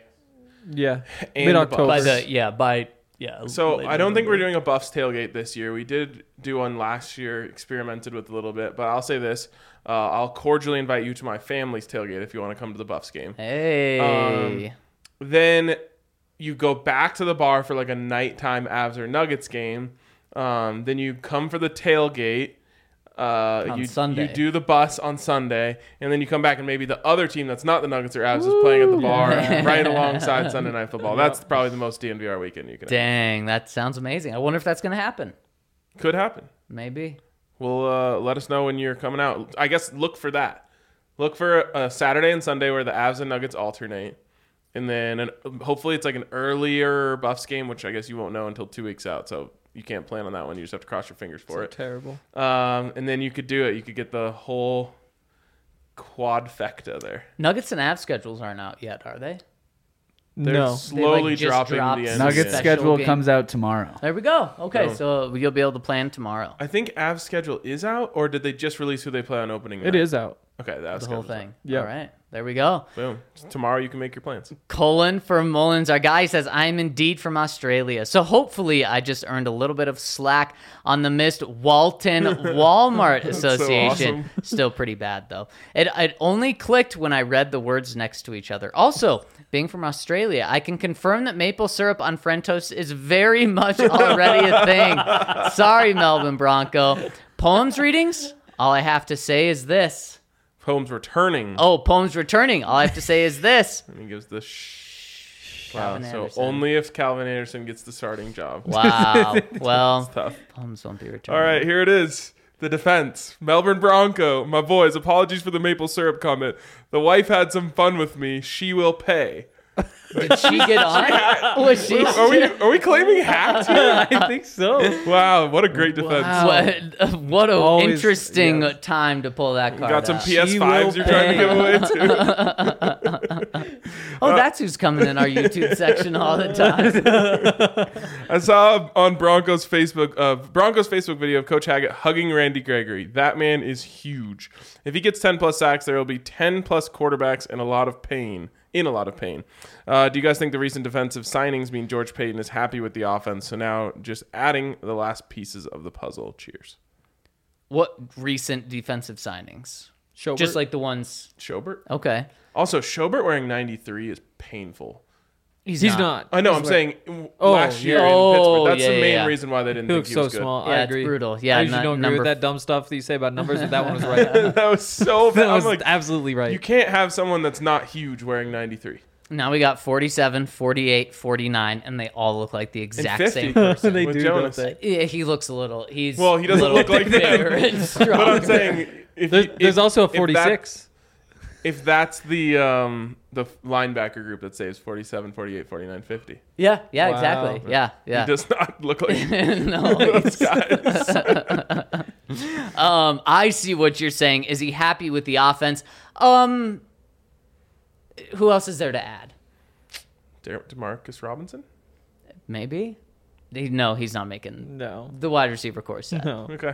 Yeah, And mid the October. By the yeah, by yeah. So late I don't think November. we're doing a Buffs tailgate this year. We did do one last year, experimented with a little bit, but I'll say this: uh, I'll cordially invite you to my family's tailgate if you want to come to the Buffs game. Hey. Um, Then you go back to the bar for like a nighttime Avs or Nuggets game. Um, then you come for the tailgate. Uh, On you, Sunday. you do the bus on Sunday, and then you come back and maybe the other team that's not the Nuggets or Avs is playing at the bar right alongside Sunday Night Football. That's probably the most D N V R weekend you can have. Dang, that sounds amazing. I wonder if that's going to happen. Could happen. Maybe. Well, uh, let us know when you're coming out. I guess look for that. Look for a Saturday and Sunday where the Avs and Nuggets alternate. And then an, hopefully it's like an earlier Buffs game, which I guess you won't know until two weeks out. So you can't plan on that one. You just have to cross your fingers for So it. terrible. Um, and then you could do it. You could get the whole quadfecta there. Nuggets and Avs schedules aren't out yet, are they? They're No. slowly just dropping dropped the end. Nuggets Special schedule game. comes out tomorrow. There we go. Okay, Boom. so you'll be able to plan tomorrow. I think Avs schedule is out, or did they just release who they play on opening night? It is out. Okay, the Avs The whole schedule's out. thing. Yeah. All right. There we go. Boom. Tomorrow you can make your plans. Colin from Mullins, our guy, says, I'm indeed from Australia. So hopefully I just earned a little bit of slack on the missed Walton Walmart Association. awesome. Still pretty bad, though. It, it only clicked when I read the words next to each other. Also, being from Australia, I can confirm that maple syrup on French toast is very much already a thing. Sorry, Melbourne Bronco. Poems readings? All I have to say is this. Poems returning. Oh, poems returning. All I have to say is this. And he gives the shh. Wow, Calvin so Anderson. only if Calvin Anderson gets the starting job. Wow. Well, Tough. Plums won't be returning. All right, here it is. The defense. Melbourne Bronco. My boys, apologies for the maple syrup comment. The wife had some fun with me. She will pay. Did she get on? Was she? Are we are we claiming hacked here? I think so. Wow, what a great defense. Wow. What, what an Always- interesting yes. time to pull that card Got some out. P S She fives will you're trying to pay. give away too. Oh, that's who's coming in our YouTube section all the time. I saw on Broncos Facebook uh, Broncos Facebook video of Coach Hackett hugging Randy Gregory. That man is huge. If he gets ten plus sacks, there will be ten plus quarterbacks and a lot of pain. In a lot of pain. Uh, do you guys think the recent defensive signings mean George Payton is happy with the offense? So now just adding the last pieces of the puzzle. Cheers. What recent defensive signings? Schobert? Just like the ones. Schobert? Okay. Also, Schobert wearing ninety-three is painful. He's, He's not. not. I know, He's I'm wearing- saying Oh, last year yeah. in Oh, Pittsburgh. That's yeah, the yeah, main yeah. reason why they didn't He think looks he so was good. small. Yeah, I it's agree. brutal. Yeah, I usually nu- don't agree number with that dumb stuff that you say about numbers, but that one was right. That was so bad. that I'm was like, absolutely right. you can't have someone that's not huge wearing ninety-three. Now we got forty-seven, forty-eight, forty-nine, and they all look like the exact fifty. same person. They with do, Jonas. don't they? Yeah, he looks a little. He's Well, he doesn't a little look like bigger them. and stronger. But I'm saying, if There's, you- there's if- also a if that- forty-six. If that's the um, the linebacker group that saves forty-seven, forty-eight, forty-nine, fifty. yeah, yeah, Wow. exactly. Yeah, yeah. He does not look like no, those he's- guys. um, I see what you're saying. Is he happy with the offense? Um, who else is there to add? De- DeMarcus Robinson? Maybe. He, no, he's not making No. the wide receiver course set. No. Okay.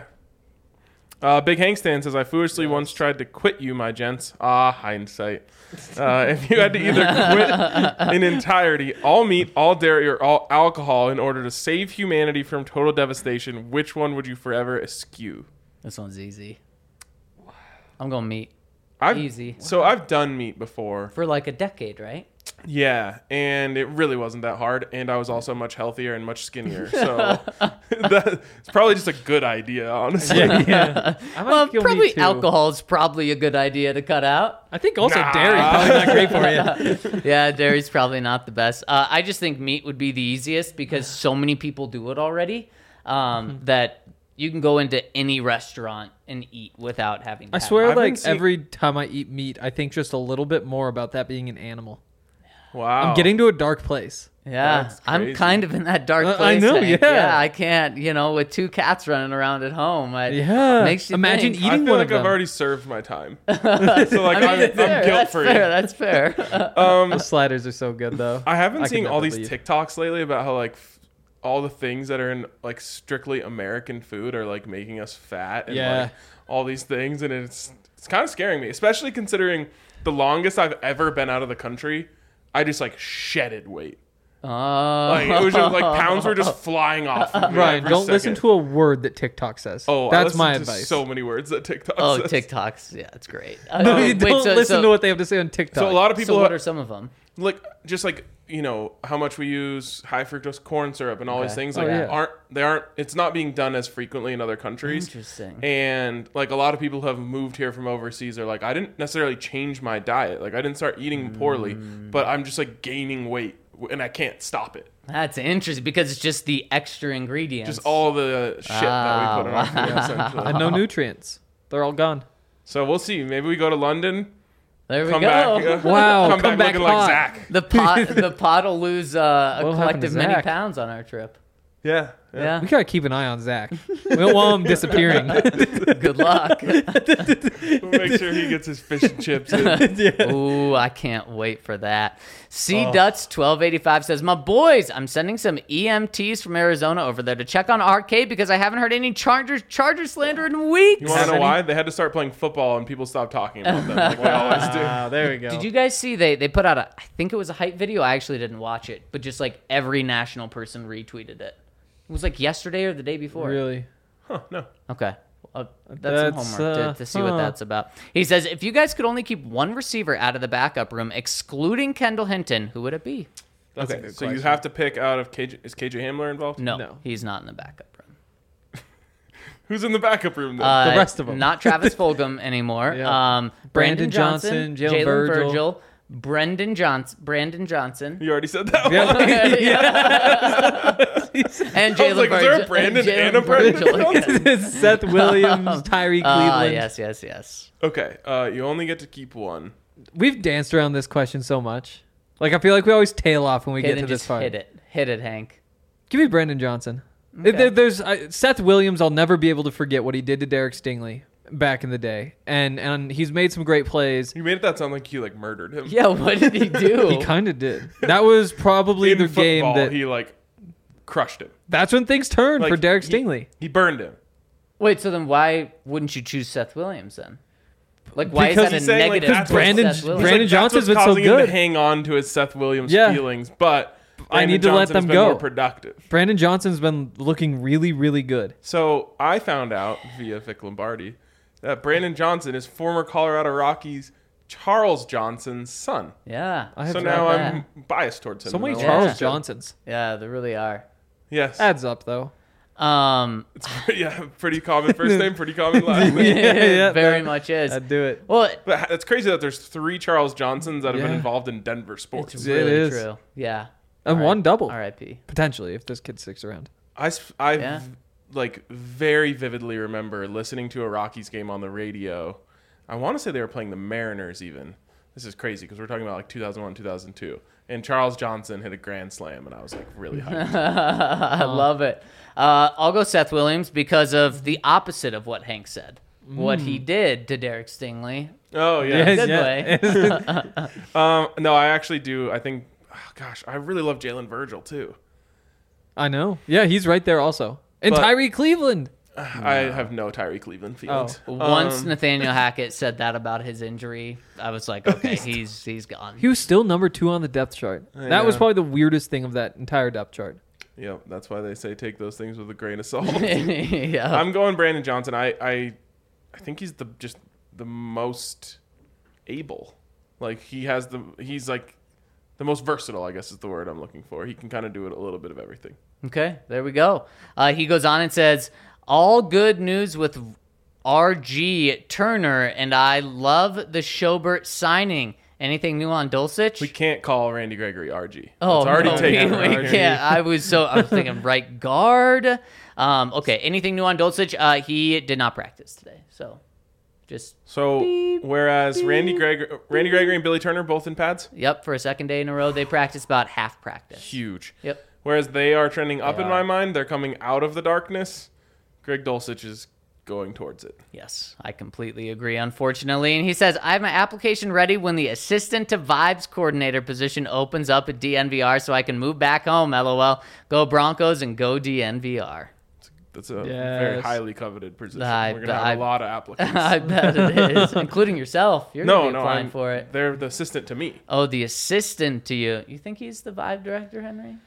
Uh, Big Hank Stan says, I foolishly once tried to quit you, my gents. Ah, hindsight. Uh, if you had to either quit in entirety, all meat, all dairy, or all alcohol in order to save humanity from total devastation, which one would you forever eschew? This one's easy. I'm going meat I've, Easy. So I've done meat before. for like a decade, right? Yeah, and it really wasn't that hard, and I was also much healthier and much skinnier. So that's probably just a good idea, honestly. Yeah, yeah. I might Well, kill probably meat too. alcohol is probably a good idea to cut out. I think also Nah. dairy probably not great for you. Yeah, dairy's probably not the best. Uh, I just think meat would be the easiest because so many people do it already um, that you can go into any restaurant and eat without having to I have swear, I've been like seeing- every time I eat meat, I think just a little bit more about that being an animal. Wow. I'm getting to a dark place. Yeah, That's I'm crazy. kind of in that dark Uh, I place. know, Hank. yeah. I can't, you know, with two cats running around at home. I, Yeah. makes you Imagine think. eating I feel one like of them. I've already served my time. so like I I'm, mean, that's I'm fair. guilt That's free. fair. That's fair. The sliders are so good though. I have been I could seeing all never these leave. TikToks lately about how like f- all the things that are in like strictly American food are like making us fat and Yeah. like all these things, and it's it's kind of scaring me, especially considering the longest I've ever been out of the country, I just like shedded weight. Oh. Like it was just like pounds were just flying off. Of me Ryan, every don't listen second. to a word that TikTok says. Oh, I that's listen my to advice. So many words that TikTok. Oh, says. TikToks. Yeah, it's great. no, Uh, you wait, don't so- listen so- to what they have to say on TikTok. So a lot of people So what are some of them? like just like you know how much we use high fructose corn syrup and all Okay. these things Oh, like yeah. aren't they aren't it's not being done as frequently in other countries. Interesting. And like a lot of people who have moved here from overseas are like, I didn't necessarily change my diet, like I didn't start eating poorly, Mm. but I'm just like gaining weight and I can't stop it. That's interesting because it's just the extra ingredients. Just all the shit that we put in our food wow. essentially. and no nutrients. They're all gone. So we'll see. Maybe we go to London, There we come go. back, uh, Wow, come, come back, back looking hot. like Zach. The pot, the pot will lose uh, a What'll happen to collective many Zach? pounds on our trip. Yeah, Yeah. We gotta keep an eye on Zach. We don't want him disappearing. Good luck. We'll make sure he gets his fish and chips in. Ooh, I can't wait for that. C Oh. Duts twelve eighty-five says, "My boys, I'm sending some E M Ts from Arizona over there to check on Arcade because I haven't heard any Chargers Charger slander in weeks." You want Have to know any? why? They had to start playing football and people stopped talking about them like they always do. Ah, there we go. Did you guys see they they put out a I think it was a hype video. I actually didn't watch it, but just like every national person retweeted it. It was like yesterday or the day before. really? Huh, no. Okay. Well, that's, That's, some homework uh, to, to see what huh. that's about. He says, if you guys could only keep one receiver out of the backup room, excluding Kendall Hinton, who would it be? That's a Okay, good so you question. have to pick out of K J. Is K J Hamler involved? No, No. he's not in the backup room. Who's in the backup room then? Uh, rest of 'em. Not Travis Fulgham anymore. Yeah. Um, Brandon Brandon Johnson, Johnson, Jalen Jalen Virgil. Virgil, Brendan Johnson, Brandon Johnson, You already said that one. and I was Jalen like, is there a Virgil- Brandon Jalen and a Brandon Virgil. Johnson? Seth Williams, Tyree Cleveland. Ah, yes, yes, yes. Okay, uh, you only get to keep one. We've danced around this question so much. Like I feel like we always tail off when we Okay, get then to this just part. hit it. Hit it, Hank. Give me Brandon Johnson. Okay. There- there's uh, Seth Williams. I'll never be able to forget what he did to Derek Stingley back in the day, and and he's made some great plays. You made that sound like you like murdered him. Yeah, what did he do? He kind of did. That was probably In the football, game that. he like crushed him. That's when things turned Like, for Derek he- Stingley. He burned him. Wait, so then why wouldn't you choose Seth Williams then? Like, why Because is that he's a saying, like, negative? that's for Brandon- Seth Williams? Brandon Like, Johnson's that's what's been so causing him good. to hang on to his Seth Williams Yeah. feelings, but I need Brandon to let Johnson has them been go. more productive. Brandon Johnson's been looking really, really good. So I found out via Vic Lombardi that Brandon Johnson is former Colorado Rockies Charles Johnson's son. Yeah. I have So to now that. I'm biased towards him. So many and I Yeah. Charles like him. Johnsons. Yeah, there really are. Yes. Adds up though. Um, It's pretty, yeah, pretty common first name, pretty common last name. yeah, very that- much is. I'd do it. Well, But it's crazy that there's three Charles Johnsons that have been Yeah. involved in Denver sports. it's It really is. true. Yeah. And R I- one double R I P potentially if this kid sticks around. I, s- I Yeah. like very vividly remember listening to a Rockies game on the radio. I want to say they were playing the Mariners even. This is crazy because we're talking about like two thousand one, two thousand two. And Charles Johnson hit a grand slam, and I was like really hyped. I love it. Uh, I'll go Seth Williams because of the opposite of what Hank said. What he did to Derek Stingley. Oh, yeah. Good yeah. Um, no, I actually do. I think, oh, gosh, I really love Jalen Virgil too. I know. Yeah, he's right there also. And But- Tyree Cleveland. I have no Tyree Cleveland feelings. Once Um, Nathaniel Hackett said that about his injury, I was like, okay, he's he's gone. He was still number two on the depth chart. I That was know. probably the weirdest thing of that entire depth chart. Yep, that's why they say take those things with a grain of salt. yeah. I'm going Brandon Johnson. I, I, I think he's the just the most able. Like he has the he's like the most versatile. I guess is the word I'm looking for. He can kind of do it a little bit of everything. Okay, there we go. Uh, he goes on and says, all good news with R G Turner, and I love the Schobert signing. Anything new on Dulcich? We can't call Randy Gregory R G. Oh, it's already no, taken. we, we R G. can't. I was so I was thinking right guard. Um, okay, anything new on Dulcich? Uh, he did not practice today, so just So whereas Randy Gregory, Randy Gregory and Billy Turner both in pads, yep for a second day in a row. They practiced about half practice. huge. Yep. Whereas they are trending up They in are. my mind. They're coming out of the darkness. Greg Dulcich is going towards it. Yes, I completely agree, unfortunately. And he says, I have my application ready when the assistant to vibes coordinator position opens up at D N V R so I can move back home, LOL. Go Broncos and go D N V R. That's a very Yes. highly coveted position. I- We're gonna have I- a lot of applicants. I bet it is, including yourself. You're no, going to be no, applying I'm, for it. They're the assistant to me. Oh, the assistant to you. You think he's the vibe director, Henry?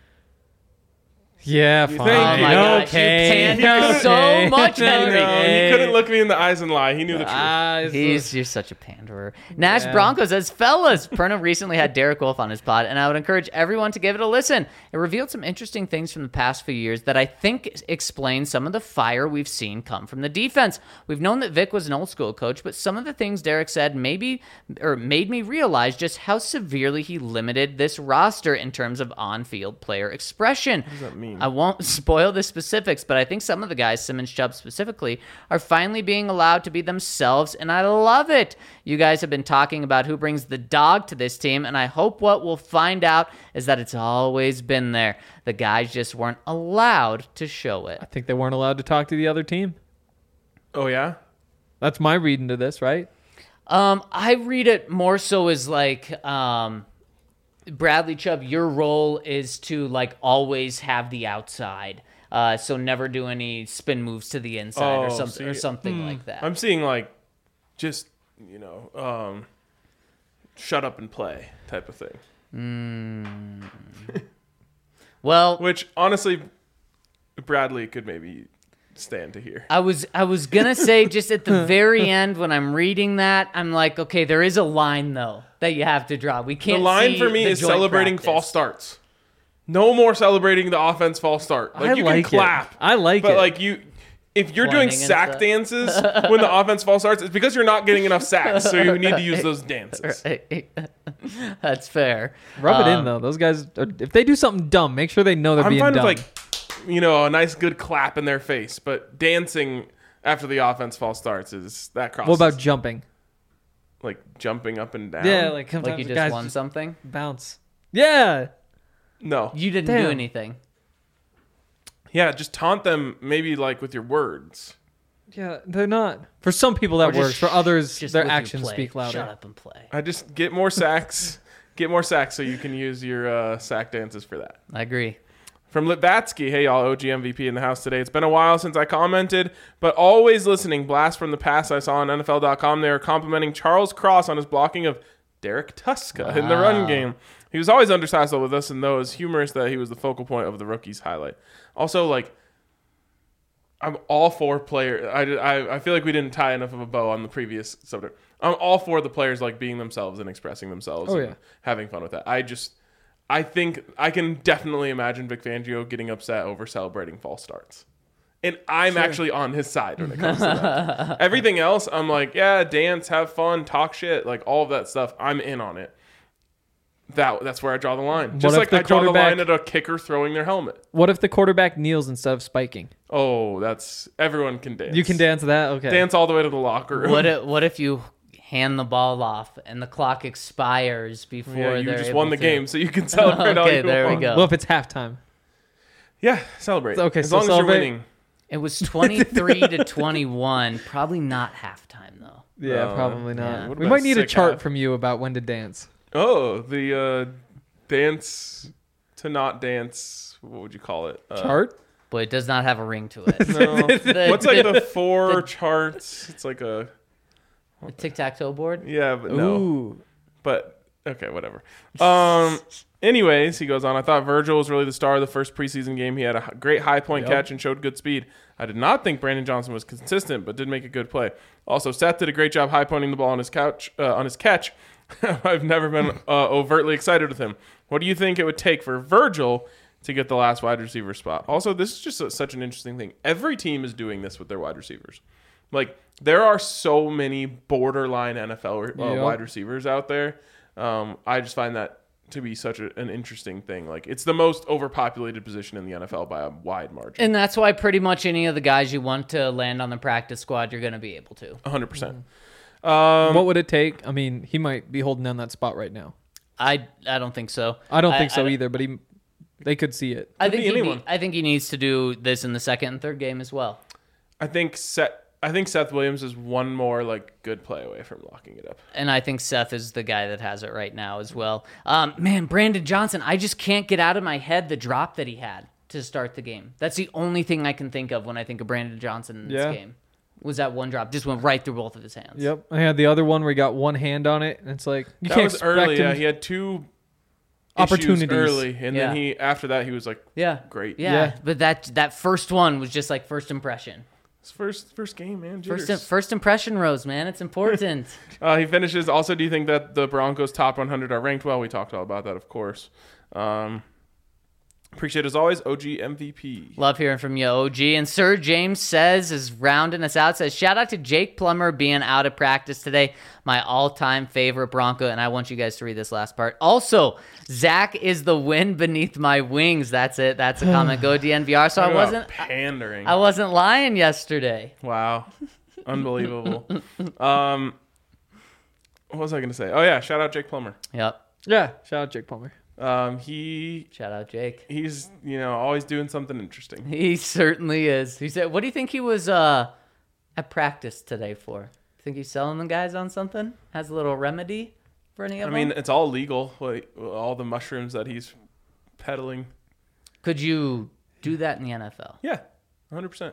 Yeah, You fine. think- Oh my No, gosh, you okay. pander so Okay. much, Henry. No, he couldn't look me in the eyes and lie. He knew the truth. Ah, it's- He's you're such a panderer. Nash Yeah. Broncos says, fellas, Perna recently had Derek Wolf on his pod, and I would encourage everyone to give it a listen. It revealed some interesting things from the past few years that I think explain some of the fire we've seen come from the defense. We've known that Vic was an old school coach, but some of the things Derek said maybe or made me realize just how severely he limited this roster in terms of on-field player expression. What does that mean? I won't spoil the specifics, but I think some of the guys, Simmons, Chubb specifically, are finally being allowed to be themselves, and I love it. You guys have been talking about who brings the dog to this team, and I hope what we'll find out is that it's always been there. The guys just weren't allowed to show I it. think they weren't allowed to talk to the other team. Oh yeah. That's my reading to this, right? Um, I read it more so as like, um, Bradley Chubb, your role is to like always have the outside. Uh, so never do any spin moves to the inside or Oh, something or see, something like that. I'm seeing like just you know um, shut up and play type of thing. Well, Which honestly, Bradley could maybe stand to hear. I was I was gonna say just at the very end when I'm reading that, I'm like, okay, there is a line though that you have to draw. We The can't. line see for me the is joint celebrating practice. false starts. No more celebrating the offense false start. Like I you like can clap. it. I like but it. like you if you're doing Pointing and sack stuff. dances when the offense false starts, it's because you're not getting enough sacks. So you need to use those dances. That's fair. Rub it in Um, though. Those guys, are, if they do something dumb, make sure they know they're I'm being fine dumb. with like, you know, a nice good clap in their face, but dancing after the offense false starts is that crosses. what about jumping? like jumping up and down? Yeah, like sometimes Like you the just guys won something. bounce. Yeah, no, You didn't Damn. do anything. yeah, just taunt them maybe like with your words. yeah, they're not. For some people Or that just works. For sh- others, just their with your actions play. speak louder. Shut up and play. I just get more sacks, get more sacks, so you can use your uh, sack dances for that. I agree. From Litvatsky, hey y'all, O G M V P in the house today. It's been a while since I commented, but always listening. Blast from the past I saw on N F L dot com. They were complimenting Charles Cross on his blocking of Derek Tuska in the run Wow. game. He was always undersized with us, and though it was humorous that he was the focal point of the rookie's highlight. Also, like, I'm all for player. I, I, I feel like we didn't tie enough of a bow on the previous subject. I'm all for the players like being themselves and expressing themselves Oh, and yeah. having fun with that. I just, I think I can definitely imagine Vic Fangio getting upset over celebrating false starts. And I'm actually on his side when it comes to that. Everything else, I'm like, yeah, dance, have fun, talk shit, like all of that stuff. I'm in on it. That that's where I draw the line. Just if like the I draw the quarterback- line at a kicker throwing their helmet. What if the quarterback kneels instead of spiking? Oh, that's everyone can dance. You can dance that? Okay. Dance all the way to the locker room. What if, what if you hand the ball off and the clock expires before Yeah, you they're just able won the to- game, so you can celebrate all Okay, you there we want. go. What if it's halftime? Yeah, celebrate. Okay, as so long celebrate- as you're winning. It was twenty-three to twenty-one. Probably not halftime though. Yeah, No. probably Yeah. not. What We about might need a sick chart half? from you about when to dance. Oh, the uh, dance to not dance. What would you call it? Uh, Chart? But it does not have a ring to it. No. The- What's like the the- four charts? It's like a the tic-tac-toe board? yeah, but no. Ooh. But okay, whatever. Um. Anyways, he goes on. I thought Virgil was really the star of the first preseason game. He had a h- great high point Yep. catch and showed good speed. I did not think Brandon Johnson was consistent, but did make a good play. Also, Seth did a great job high pointing the ball on his couch uh, on his catch. I've never been uh, overtly excited with him. What do you think it would take for Virgil to get the last wide receiver spot? Also, this is just a, such an interesting thing. Every team is doing this with their wide receivers. Like, there are so many borderline N F L uh, Yep. wide receivers out there. Um, I just find that to be such a, an interesting thing. Like, it's the most overpopulated position in the N F L by a wide margin. And that's why pretty much any of the guys you want to land on the practice squad, you're going to be able to. one hundred percent. Um, What would it take? I mean, he might be holding down that spot right now. I I don't think so. I don't think so I, either, but he, they could see it. I Could think be he anyone. need- I think he needs to do this in the second and third game as well. I think Seth, I think Seth Williams is one more like good play away from locking it up. And I think Seth is the guy that has it right now as well. Um, man, Brandon Johnson, I just can't get out of my head the drop that he had to start the game. That's the only thing I can think of when I think of Brandon Johnson in this Yeah. game. Was that one drop? Just went right through both of his hands. Yep. I had the other one where he got one hand on it, and it's like you That can't was expect early. him. Yeah, he had two Opportunities. issues early, and Yeah. then he after that he was like, Yeah. Great. Yeah. Yeah. But that that first one was just like first impression. his first first game, man. First Jitters. first impression, Rose, man. It's important. Uh, he finishes. Also, do you think that the Broncos top one hundred are ranked well? We talked all about that, of course. Um, appreciate it as always, O G M V P. Love hearing from you, O G. And Sir James says, is rounding us out, says, shout out to Jake Plummer being out of practice today. My all-time favorite Bronco. And I want you guys to read this last part. Also, Zach is the wind beneath my wings. That's it. That's a comment. Go D N V R. So I Talk about wasn't pandering. I wasn't lying yesterday. Wow, unbelievable. um, what was I going to say? Oh yeah, shout out Jake Plummer. Yep. Yeah. Shout out Jake Palmer. Um, he Shout out Jake. he's you know always doing something interesting. He certainly is. He said, what do you think he was uh, at practice today for? Think he's selling the guys on something? Has a little remedy for any I of mean, them? it's all legal. Like, all the mushrooms that he's peddling. Could you do that in the N F L? Yeah, one hundred percent.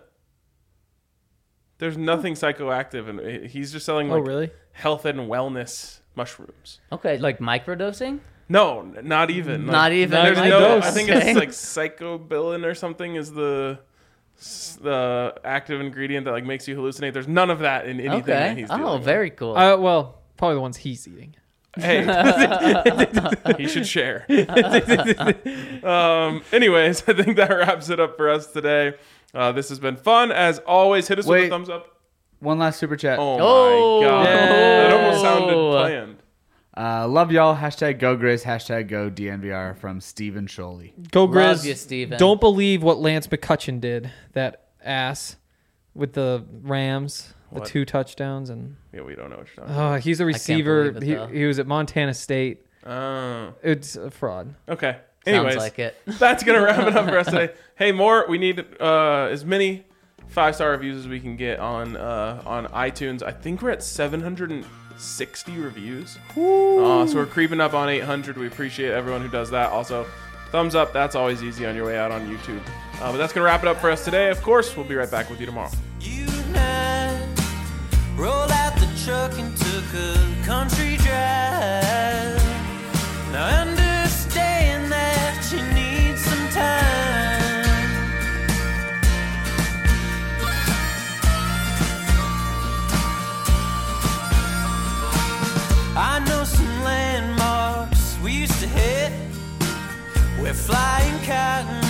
There's nothing psychoactive, and he's just selling Oh, like really? health and wellness mushrooms. Okay, like microdosing? No, n- not even. Like, Not even. There's even no. dose. I think Okay. it's like psychobilin or something is the s- the active ingredient that like makes you hallucinate. There's none of that in anything that Okay. he's Oh, dealing very cool. Uh, well, probably the ones he's eating. with. Hey, he should share. um. Anyways, I think that wraps it up for us today. Uh, this has been fun as always. Hit us with Wait. a thumbs up. One last super chat. Oh, Oh. my god, that almost sounded Oh. planned. Uh, love y'all. Hashtag go Grizz. Hashtag go D N V R from Steven Sholey. Go Love Grizz. you, Steven. Don't believe what Lance McCutcheon did. That ass with the Rams, the What? two touchdowns, and Yeah, we don't know what you're talking about. oh, he's a receiver. believe it, though. he, he was at Montana State. Oh, It's a fraud. okay. Sounds Anyways, like it. that's gonna wrap it up for us today. Hey, more. We need uh, as many five star reviews as we can get on uh, on iTunes. I think we're at seven hundred sixty reviews. Uh, so we're creeping up on eight hundred. We appreciate everyone who does that. Also, thumbs up. That's always easy on your way out on YouTube. Uh, but that's gonna wrap it up for us today. Of course, we'll be right back with you tomorrow. You and I rolled out the truck and took a country drive. Now I understand that you need some time. I know some landmarks we used to hit. We're flying cotton